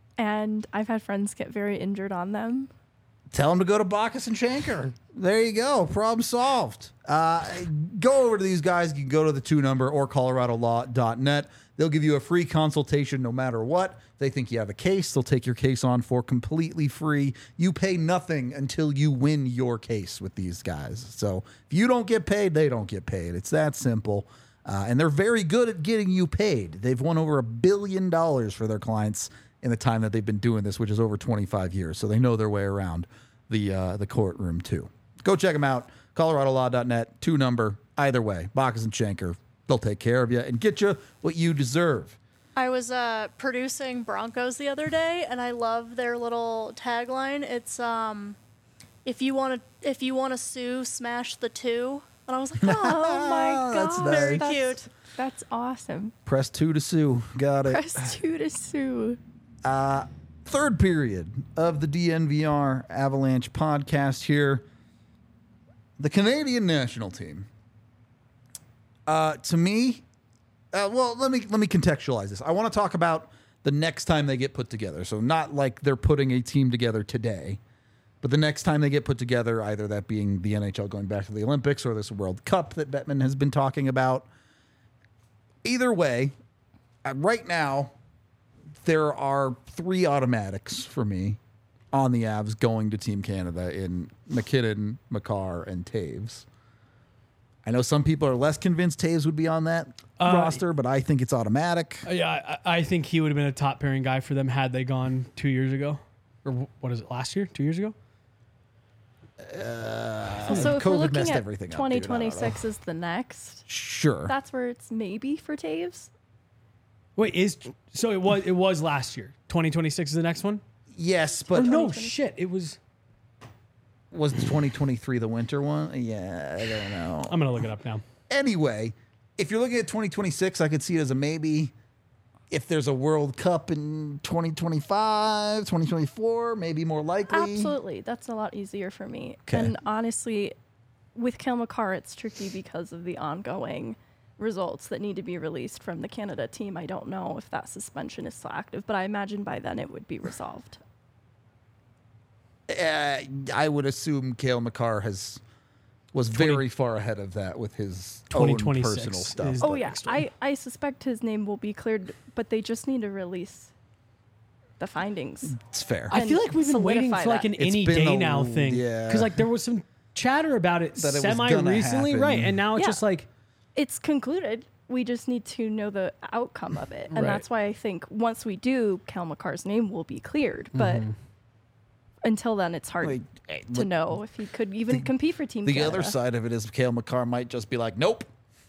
and I've had friends get very injured on them. Tell them to go to Bacchus and Schenker. There you go. Problem solved. Uh, go over to these guys. You can go to the two number or colorado law dot net. They'll give you a free consultation no matter what. If they think you have a case, they'll take your case on for completely free. You pay nothing until you win your case with these guys. So if you don't get paid, they don't get paid. It's that simple. Uh, and they're very good at getting you paid. They've won over a billion dollars for their clients in the time that they've been doing this, which is over twenty-five years. So they know their way around the uh, the courtroom too. Go check them out. colorado law dot net, two number. Either way, Bacchus and Schenker, they'll take care of you and get you what you deserve. I was uh, producing Broncos the other day, and I love their little tagline. It's um, if you want to if you want to sue, smash the two. And I was like, oh, Oh my god. That's very nice. cute. That's awesome. Press two to sue. Got it. Press two to sue. Third period of the D N V R Avalanche podcast here. The Canadian national team. Uh, to me, uh, well, let me let me contextualize this. I want to talk about the next time they get put together. So not like they're putting a team together today, but the next time they get put together, either that being the N H L going back to the Olympics or this World Cup that Bettman has been talking about. Either way, uh, right now, there are three automatics for me on the Avs going to Team Canada in McKinnon, Makar, and Taves. I know some people are less convinced Taves would be on that Uh, roster, but I think it's automatic. Yeah, I, I think he would have been a top pairing guy for them had they gone two years ago, or wh- what is it? Last year? Two years ago? So if we're COVID looking messed at everything up, dude. I don't know. twenty twenty-six is the next, Sure. that's where it's maybe for Taves. Wait, is so it was it was last year. twenty twenty-six is the next one? yes, Or but no, shit, it was. was the twenty twenty-three the winter one? Yeah, I don't know. I'm gonna look it up now. Anyway, if you're looking at twenty twenty-six, I could see it as a maybe. If there's a World Cup in twenty twenty-five, twenty twenty-four, maybe more likely. Absolutely. That's a lot easier for me. Okay. And honestly, with Kale McCarr, it's tricky because of the ongoing results that need to be released from the Canada team. I don't know if that suspension is still active, but I imagine by then it would be resolved. Uh, I would assume Cale Makar has was very far ahead of that with his own twenty twenty-six personal stuff. is Oh the yeah, next one. I, I suspect his name will be cleared, but they just need to release the findings. It's fair. I feel like we've been waiting solidify for like that. an It's any been day a- now thing. yeah. Because like there was some chatter about it That it was semi gonna recently, happen. right? And now it's Yeah. just like It's concluded. We just need to know the outcome of it. And Right. that's why I think once we do, Cale Makar's name will be cleared. But Mm-hmm. until then, it's hard Like, eh, to look, know if he could even compete for Team The Canada. other side of it is Cale Makar might just be like, nope.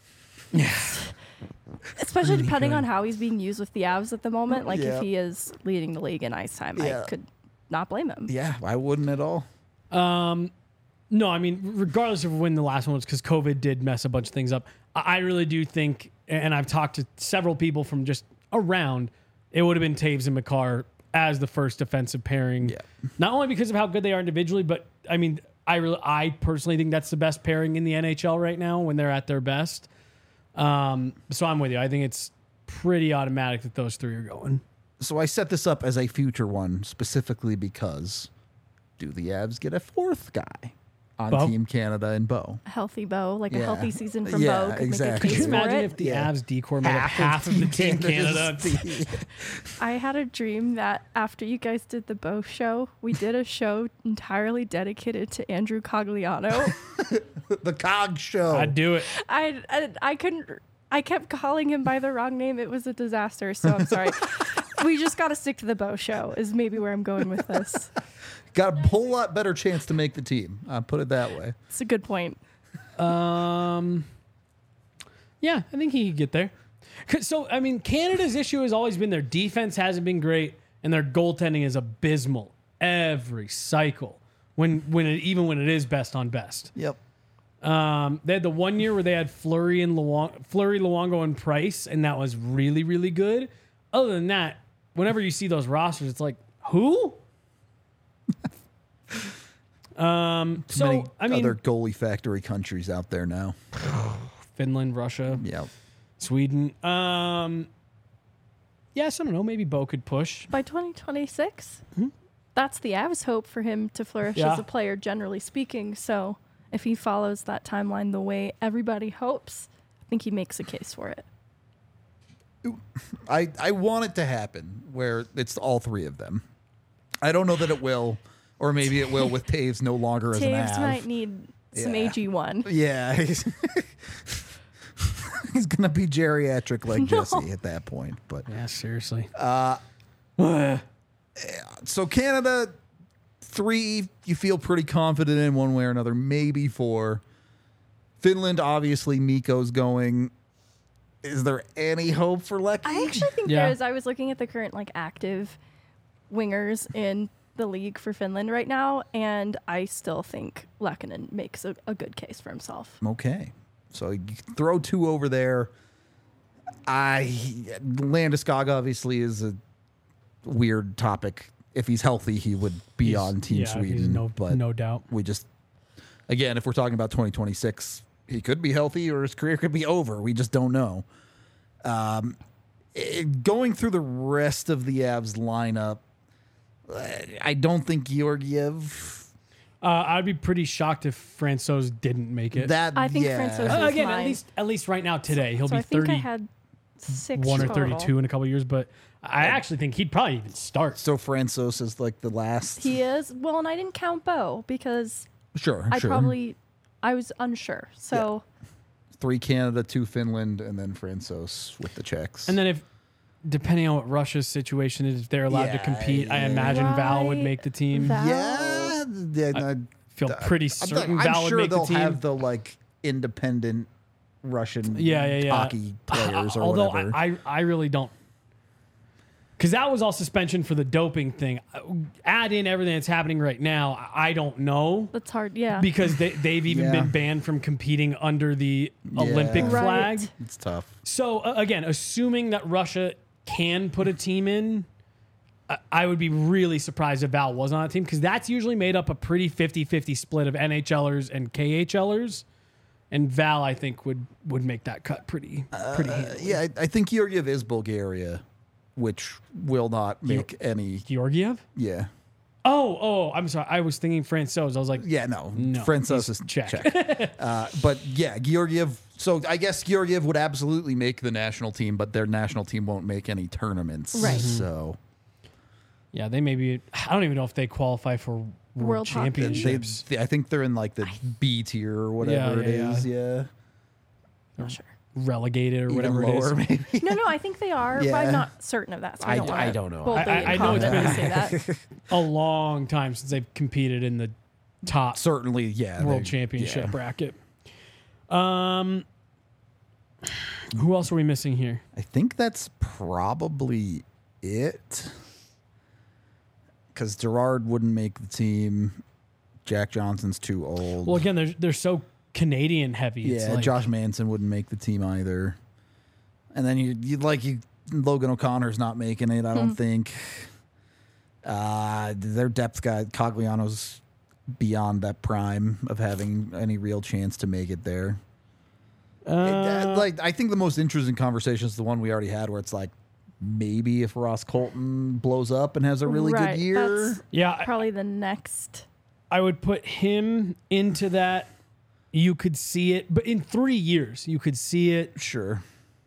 Especially depending good. on how he's being used with the Avs at the moment. Like Yeah. if he is leading the league in ice time, Yeah. I could not blame him. Yeah, I wouldn't at all. Um, no, I mean, regardless of when the last one was, because COVID did mess a bunch of things up. I I really do think, and I've talked to several people from just around, it would have been Taves and Makar as the first defensive pairing. Yeah. Not only because of how good they are individually, but I mean, I really, I personally think that's the best pairing in the N H L right now when they're at their best. Um, so I'm with you. I think it's pretty automatic that those three are going. So I set this up as a future one specifically because do the Avs get a fourth guy on Bo? Team Canada and Bo? A healthy Bo, like a Yeah. healthy season from Yeah, Bo could exactly. make a Could case you for imagine it. if the Yeah. Avs decor made up Half half of of the Team Team Canada? Canada's I had a dream that after you guys did the Bo show, we did a show entirely dedicated to Andrew Cogliano. the Cog Show. I'd do it. I, I I couldn't. I kept calling him by the wrong name. It was a disaster. So I'm sorry. We just got to stick to the Bo show. Is maybe where I'm going with this. Got a whole lot better chance to make the team. I'll put it that way. It's a good point. Um, yeah, I think he could get there. 'Cause- So, I mean, Canada's issue has always been their defense hasn't been great, and their goaltending is abysmal every cycle. When, when it, even when it is best on best. Yep. Um, they had the one year where they had Fleury and Luong- Fleury, Luongo, and Price, and that was really, really good. Other than that, whenever you see those rosters, it's like, who? um, so Many I mean, other goalie factory countries out there now. Finland, Russia, Yep. Sweden. Um, yes, I don't know. Maybe Bo could push. By twenty twenty-six, that's the Avs' hope for him to flourish Yeah. as a player, generally speaking. So if he follows that timeline the way everybody hopes, I think he makes a case for it. I, I want it to happen where it's all three of them. I don't know that it will, or maybe it will with Taves no longer as an Taves Av. might need some Yeah. A G one. Yeah. He's, he's going to be geriatric like Jesse at that point. But Yeah, seriously. so Canada, three, you feel pretty confident in one way or another, maybe four. Finland, obviously, Mikko's going. Is there any hope for Lecky? I actually think Yeah. there is. I was looking at the current like active wingers in the league for Finland right now, and I still think Lehkonen makes a, a good case for himself. Okay. So you throw two over there. I Landeskog obviously is a weird topic. If he's healthy, he would be He's- on Team yeah, he's Sweden. no, but no doubt. we just, again, if we're talking about twenty twenty-six, he could be healthy or his career could be over. We just don't know. Um, it- going through the rest of the Avs lineup, I don't think Georgiev. Uh, I'd be pretty shocked if Francouz didn't make it. That I think yeah. Francouz Uh, is again, at mine. least at least right now today, he'll so be I think I thirty-one had six or total. thirty-two in a couple of years. But I actually think he'd probably even start. So Francouz is like the last. He is well, and I didn't count Bo because sure, I sure. probably I was unsure. So Three Canada, two Finland, and then Francouz with the Czechs. And then if, depending on what Russia's situation is, if they're allowed to Yeah, compete, I yeah. imagine Val would Right. make the team. Val- yeah, yeah, no, Feel pretty certain I'm Val would sure make they'll the team. have the like independent Russian Yeah, yeah, yeah. hockey players or Although whatever. I, I, I really don't, because that was all suspension for the doping thing. Add in everything that's happening right now. I I don't know that's hard. Yeah. because they, they've even Yeah. been banned from competing under the Olympic Yeah. flag. Right. it's tough. So uh, again, assuming that Russia can put a team in, I- I would be really surprised if Val was on that team because that's usually made up a pretty fifty-fifty split of NHLers and KHLers. And Val, I think, would would make that cut pretty pretty Uh, handily. yeah, I, I think Georgiev is Bulgaria, which will not make any. Georgiev? Yeah, Oh, oh, I'm sorry. I was thinking Francouz. I was like, yeah, no, No, Francouz he's is Czech. Czech. uh, but yeah, Georgiev. So I guess Georgiev would absolutely make the national team, but their national team won't make any tournaments. Right. So yeah, they maybe. I don't even know if they qualify for World, World Hockey. they, Championships. they- I think they're in like the B tier or whatever Yeah, it yeah, is. Yeah, Not sure. Relegated or Even whatever lower, it is. maybe. No, no, I think they are, but Yeah. I'm not certain of that. So I, I- don't wanna I don't know. boldly I- I- and I know it's confidently been- say that. A long time since they've competed in the top Certainly, yeah. World they- Championship yeah. bracket. Um, who else are we missing here? I think that's probably it. Because Gerard wouldn't make the team. Jack Johnson's too old. Well, again, they're they're so Canadian heavy. yeah, It's like, Josh Manson wouldn't make the team either. And then you you'd like you Logan O'Connor's not making it. I don't think. Uh, their depth guy Cogliano's beyond that prime of having any real chance to make it there. It- Uh, like I think the most interesting conversation is the one we already had, where it's like maybe if Ross Colton blows up and has a really Right, good year. that's yeah, I, probably the next. I would put him into that. You could see it, but in three years, you could see it. Sure,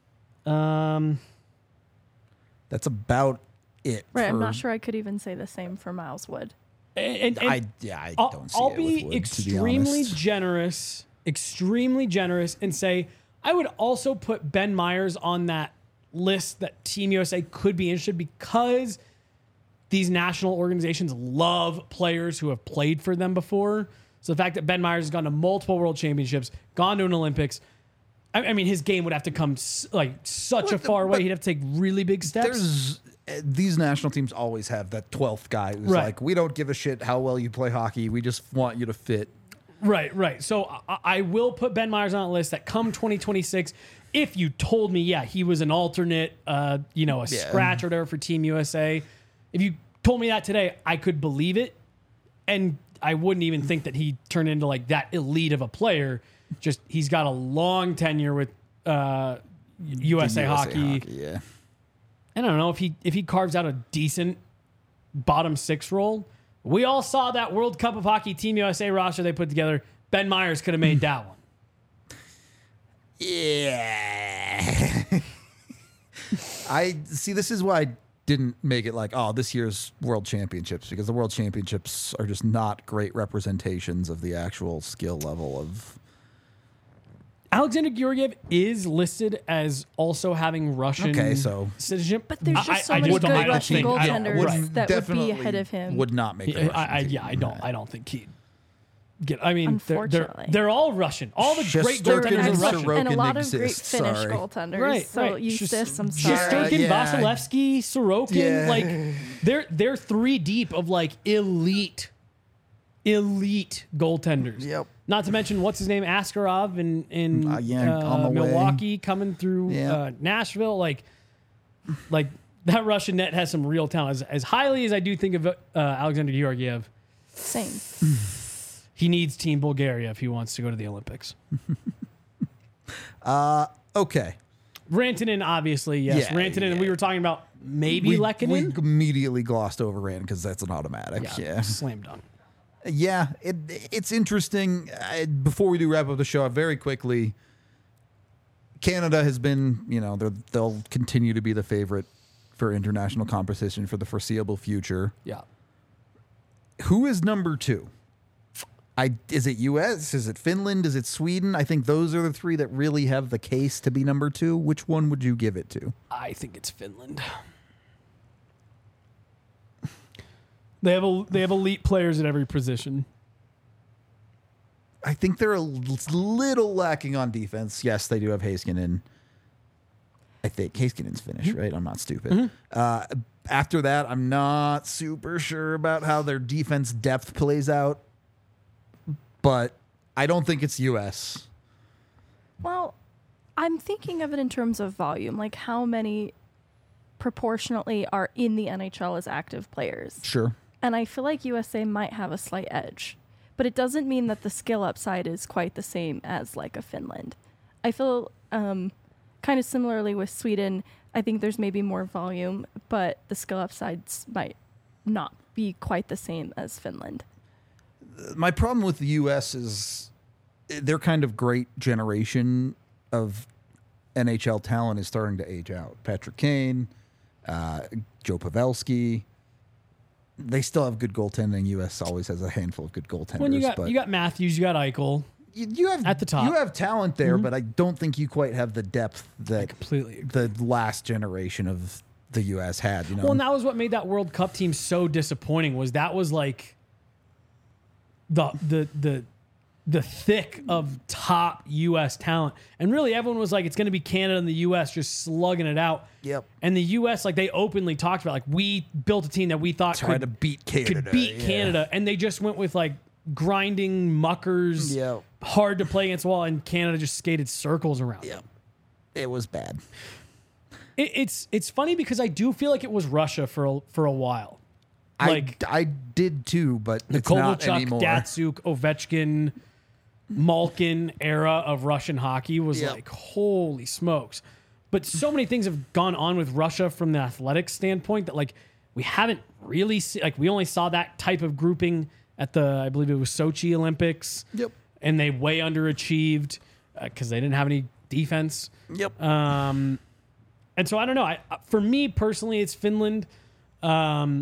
Um, that's about it. Right, I'm for- not sure I could even say the same for Miles Wood. and, and I yeah, I I'll, don't see I'll it be with Wood, to be extremely honest. generous, extremely generous, and say I would also put Ben Myers on that list that Team U S A could be interested, because these national organizations love players who have played for them before. So the fact that Ben Myers has gone to multiple World Championships, gone to an Olympics, I, I mean, his game would have to come s- like such Well, a far but way. He'd have to take really big steps. There's uh, these national teams always have that twelfth guy who's Right. like, we don't give a shit how well you play hockey. We just want you to fit. Right, right. So I, I will put Ben Myers on a list that come twenty twenty-six, if you told me, yeah, he was an alternate, uh, you know, a Yeah. scratch or whatever for Team U S A, if you told me that today, I could believe it. And I wouldn't even think that he turned into like that elite of a player. Just he's got a long tenure with uh, U S A, The hockey. Yeah. And I don't know if he if he carves out a decent bottom six role. We all saw that World Cup of Hockey Team U S A roster they put together. Ben Myers could have made that one. Yeah. I see. This is why I didn't make it like, oh, this year's World Championships, because the World Championships are just not great representations of the actual skill level of. Alexander Georgiev is listed as also having Russian Okay, so- citizenship. But there's I- just so I- I many just don't good like the Russian team. I don't- goaltenders right. that would be Definitely ahead of him. Would not make. The I, I, Russian yeah, I team. don't. I don't think he. Get. I mean, they're, they're Unfortunately. they're all Russian. All the great Shesterkin goaltenders and are Russian. Sorokin and a lot of great exists, Finnish sorry. goaltenders. Right, so right. Eustace, I'm Just- sorry. Shesterkin, Yeah. Vasilevsky, Sorokin, Yeah. like they're they're three deep of like elite, elite goaltenders. Yep. Not to mention what's his name, Askarov in in Uh, yeah, uh, on the way. Milwaukee, coming through Yeah. uh, Nashville. Like, like that Russian net has some real talent. As, as highly as I do think of uh, Alexander Georgiev, Same. he needs Team Bulgaria if he wants to go to the Olympics. Okay. Rantanen, obviously, yes. Yeah, Rantanen, yeah. we were talking about maybe We, we Lehkonen. immediately glossed over Rand because that's an automatic. yeah, Yeah. slam dunk. Yeah, it, it's interesting. Uh, before we do wrap up the show, very quickly, Canada has been, you know, they're- they'll continue to be the favorite for international competition for the foreseeable future. Yeah. Who is number two? I is it U S? Is it Finland? Is it Sweden? I think those are the three that really have the case to be number two. Which one would you give it to? I think it's Finland. They have a, they have elite players at every position. I think they're a little lacking on defense. Yes, they do have Heiskanen. I think Heiskanen's Finnish, right? I'm not stupid. Uh, after that, I'm not super sure about how their defense depth plays out, but I don't think it's U S. Well, I'm thinking of it in terms of volume, like how many proportionately are in the N H L as active players. Sure. And I feel like U S A might have a slight edge but it doesn't mean that the skill upside is quite the same as like a Finland. I feel um, kind of similarly with Sweden. I think there's maybe more volume, but the skill upsides might not be quite the same as Finland. My problem with the U S is their kind of great generation of N H L talent is starting to age out. Patrick Kane, uh, Joe Pavelski. They still have good goaltending. U S always has a handful of good goaltenders. When you got but you got Matthews, you got Eichel. you, you have at the top. You have talent there, mm-hmm. but I don't think you quite have the depth that I completely agree. the last generation of the U S had. You know, well, and that was what made that World Cup team so disappointing. Was that was like the the the the thick of top U S talent, and really everyone was like, it's going to be Canada and the U S just slugging it out. Yep. And the U S, like, they openly talked about, like, we built a team that we thought tried could to beat Canada, could beat yeah. Canada, and they just went with like grinding muckers, Yep. hard to play against the wall, and Canada just skated circles around Yep. them. It was bad. It, it's it's funny because I do feel like it was Russia for a, for a while. Like I, I did too, but the it's not Kovalchuk, anymore. Datsuk, Ovechkin, Malkin era of Russian hockey was Yep. like, holy smokes. But so many things have gone on with Russia from the athletic standpoint that, like, we haven't really seen, like, we only saw that type of grouping at the, I believe it was Sochi Olympics. Yep. And they way underachieved because uh, they didn't have any defense. Yep. Um, and so I don't know. I, for me personally, it's Finland. Um,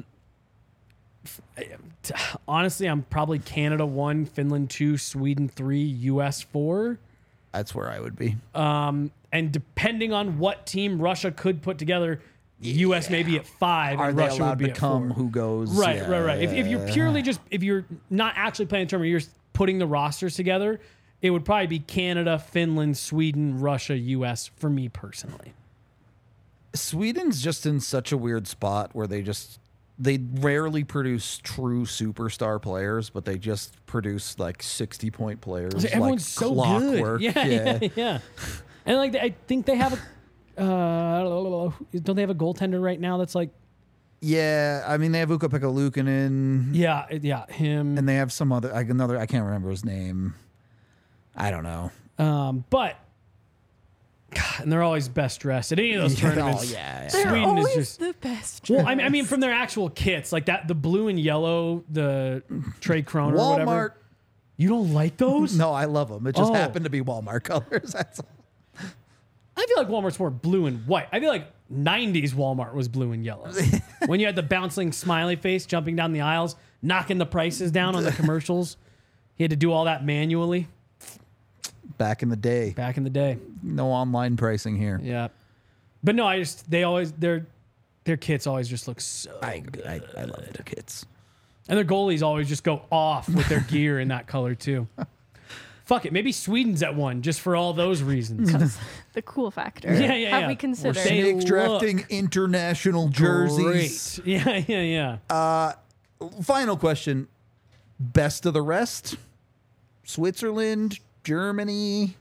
f- honestly, I'm probably Canada one, Finland two, Sweden three, U S four. That's where I would be. Um, and depending on what team Russia could put together, U S may be at five, Are and they Russia allowed would be to at come? four. Who goes? Right, Yeah, right, right. If, if you're yeah. purely just, if you're not actually playing a tournament, you're just putting the rosters together, it would probably be Canada, Finland, Sweden, Russia, U S for me personally. Sweden's just in such a weird spot where they just they rarely produce true superstar players, but they just produce like sixty point players. Everyone's like so clockwork. good. Yeah, yeah, yeah, yeah. And like I think they have a, uh, don't they have a goaltender right now that's like, Yeah, I mean they have Ukko-Pekka Luukkonen, yeah, yeah, him. and they have some other like another. I can't remember his name. I don't know. Um, but God, and they're always best dressed at any of those Yeah, tournaments. oh, yeah, yeah. They're Sweden always is just the best. well. I mean, I mean, from their actual kits, like that, the blue and yellow, the Trey Kroner, or Walmart. whatever. You don't like those? No, I love them. It just Oh. happened to be Walmart colors. That's all. I feel like Walmart's more blue and white. I feel like nineties Walmart was blue and yellow. When you had the bouncing smiley face jumping down the aisles, knocking the prices down on the commercials. He had to do all that manually Back in the day, back in the day. no online pricing here. Yeah. But no, I just, they always, their their kits always just look so I, good. I I love their kits. And their goalies always just go off with their gear in that color too. Fuck it. Maybe Sweden's at one just for all those reasons. The cool factor. Yeah, yeah, Have yeah. we We're considered? saying- Snakes look drafting international jerseys. Great. Yeah, yeah, yeah. Uh, final question: best of the rest? Switzerland, Germany,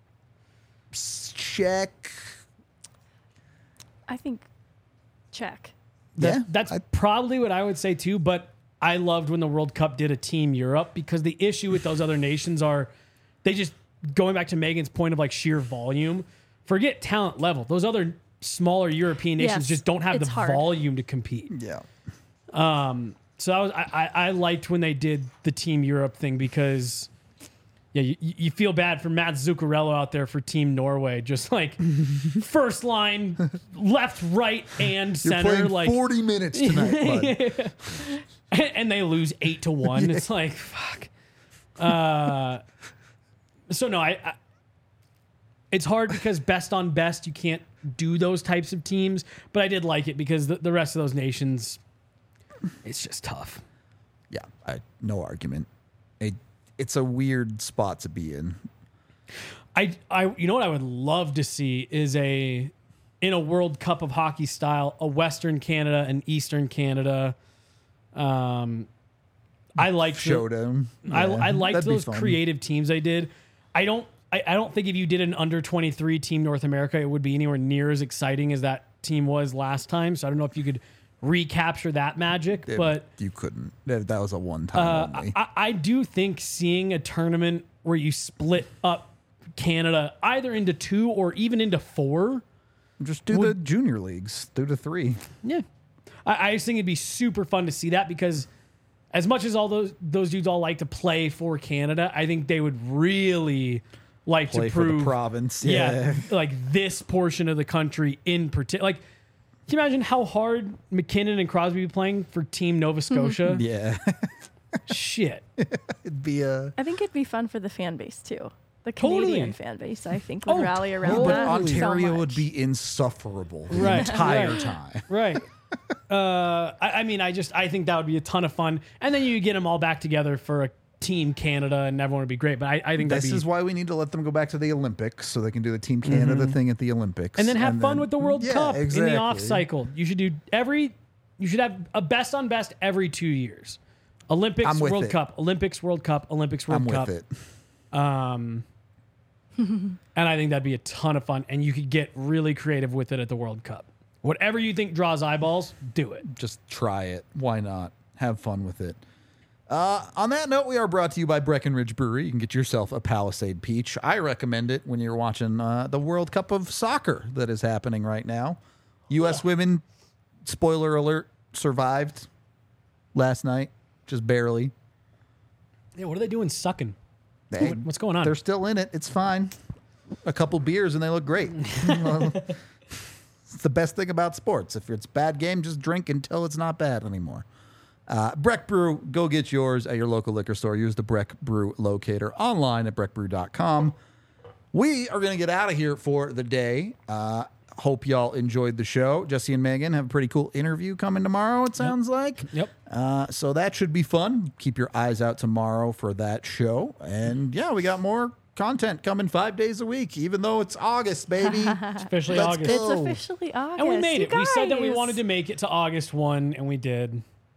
Czech. I think check. That- yeah, that's I- probably what I would say too. But I loved when the World Cup did a Team Europe because the issue with those other nations are they just, going back to Megan's point of like sheer volume, forget talent level. Those other smaller European nations Yes, just don't have it's the hard. volume to compete. yeah. Um, so that was I, I, I liked when they did the Team Europe thing because yeah, you, you feel bad for Matt Zuccarello out there for Team Norway, just like first line, left, right, and You're center, playing like forty minutes tonight, bud. and they lose eight to one. It's like fuck. Uh, so no, I, I. It's hard because best on best, you can't do those types of teams. But I did like it because the, the rest of those nations, it's just tough. Yeah, I, no argument. It, it's a weird spot to be in. I, I, you know what I would love to see is a, in a World Cup of hockey style, a Western Canada and Eastern Canada. Um, I liked the- Showdown. I, Yeah, I liked that'd be those fun. creative teams they did. I don't. I, I don't think if you did an under twenty-three team North America, it would be anywhere near as exciting as that team was last time. So I don't know if you could recapture that magic. It- but you couldn't. That, that was a one time uh, only. I, I do think seeing a tournament where you split up Canada either into two or even into four. Just do the junior leagues. Do the three. Yeah. I, I just think it'd be super fun to see that because as much as all those those dudes all like to play for Canada, I think they would really like Play to for prove the province. yeah, Yeah. like this portion of the country in particular. Like, can you imagine how hard McKinnon and Crosby be playing for Team Nova Scotia? Yeah. Shit. It'd be a. I think it'd be fun for the fan base too. The Totally. Canadian fan base, I think, would Oh, rally around totally. that. Ontario so would much. be insufferable the Right, entire right. time. Right. Uh, I, I mean, I just I think that would be a ton of fun, and then you get them all back together for a Team Canada, and everyone would be great. But I, I think that'd This be is why we need to let them go back to the Olympics so they can do the Team Canada thing at the Olympics. and then have fun with the World Yeah, Cup in exactly. the off cycle. You should do every. You should have a best on best every two years. Olympics, I'm with World it. Cup, Olympics, World Cup, Olympics, World I'm Cup. with it. Um, and I think that'd be a ton of fun, and you could get really creative with it at the World Cup. Whatever you think draws eyeballs, do it. Just try it. Why not? Have fun with it. Uh, on that note, we are brought to you by Breckenridge Brewery. You can get yourself a Palisade Peach. I recommend it when you're watching uh, the World Cup of Soccer that is happening right now. U S women, spoiler alert, survived last night, just barely. Yeah, what are they doing sucking? They, What- what's going on? They're still in it. It's fine. A couple beers and they look great. It's the best thing about sports. If it's a bad game, just drink until it's not bad anymore. Uh, Breck Brew, go get yours at your local liquor store. Use the Breck Brew locator online at breck brew dot com. We are going to get out of here for the day. Uh, hope y'all enjoyed the show. Jesse and Megan have a pretty cool interview coming tomorrow, it sounds like. Yep. Uh, so that should be fun. Keep your eyes out tomorrow for that show. And yeah, we got more content coming five days a week, even though it's August, baby. It's officially Let's August. go. It's officially August. And we made You it. We said that we guys. wanted to make it to August first, and we did.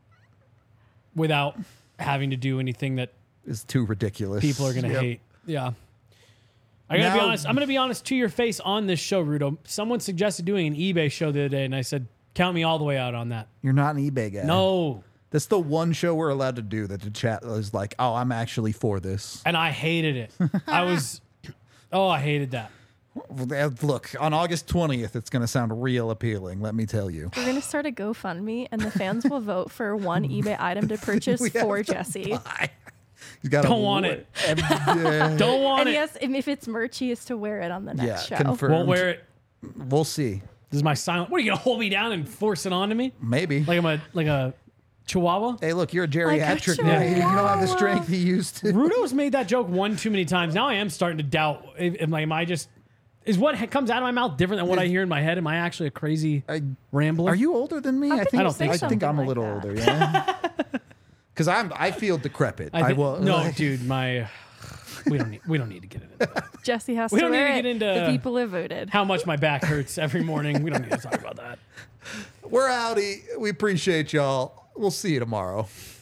Without having to do anything that It's too ridiculous. people are going to Yep. hate. Yeah. I gotta be Now- honest. I'm gonna be honest to your face on this show, Rudo. Someone suggested doing an eBay show the other day, and I said, "Count me all the way out on that." You're not an eBay guy. No, That's the one show we're allowed to do that the chat is like, oh, I'm actually for this. and I hated it. I was, oh, I hated that. Look, on August twentieth, it's going to sound real appealing, let me tell you. We're gonna start a GoFundMe, and the fans will vote for one eBay item to purchase We have for to Jesse. You gotta Don't want w- it. Every- yeah. Don't want And it. yes, and if it's merch, he is to wear it on the next Yeah, show. confirmed. Won't wear it. We'll see. This is my silent. What are you gonna hold me down and force it onto me? Maybe. Like I'm a like a chihuahua? Hey, look, you're a Like a geriatric now. You don't have the chihuahua. strength you used to. Rudo's made that joke one too many times. Now I am starting to doubt. If, if, like, am I just? Is what he- comes out of my mouth different than what I hear in my head? Am I actually a crazy I- rambler? Are you older than me? How I could think I don't think I so. think I'm a something little like older. Yeah. Because I'm I feel decrepit. I, I thi- will. no, dude. My we don't need we don't need to get into that. Jesse has We to don't need wear to it. get into- The people have voted. How much my back hurts every morning. We don't need to talk about that. We're outie. We appreciate y'all. We'll see you tomorrow.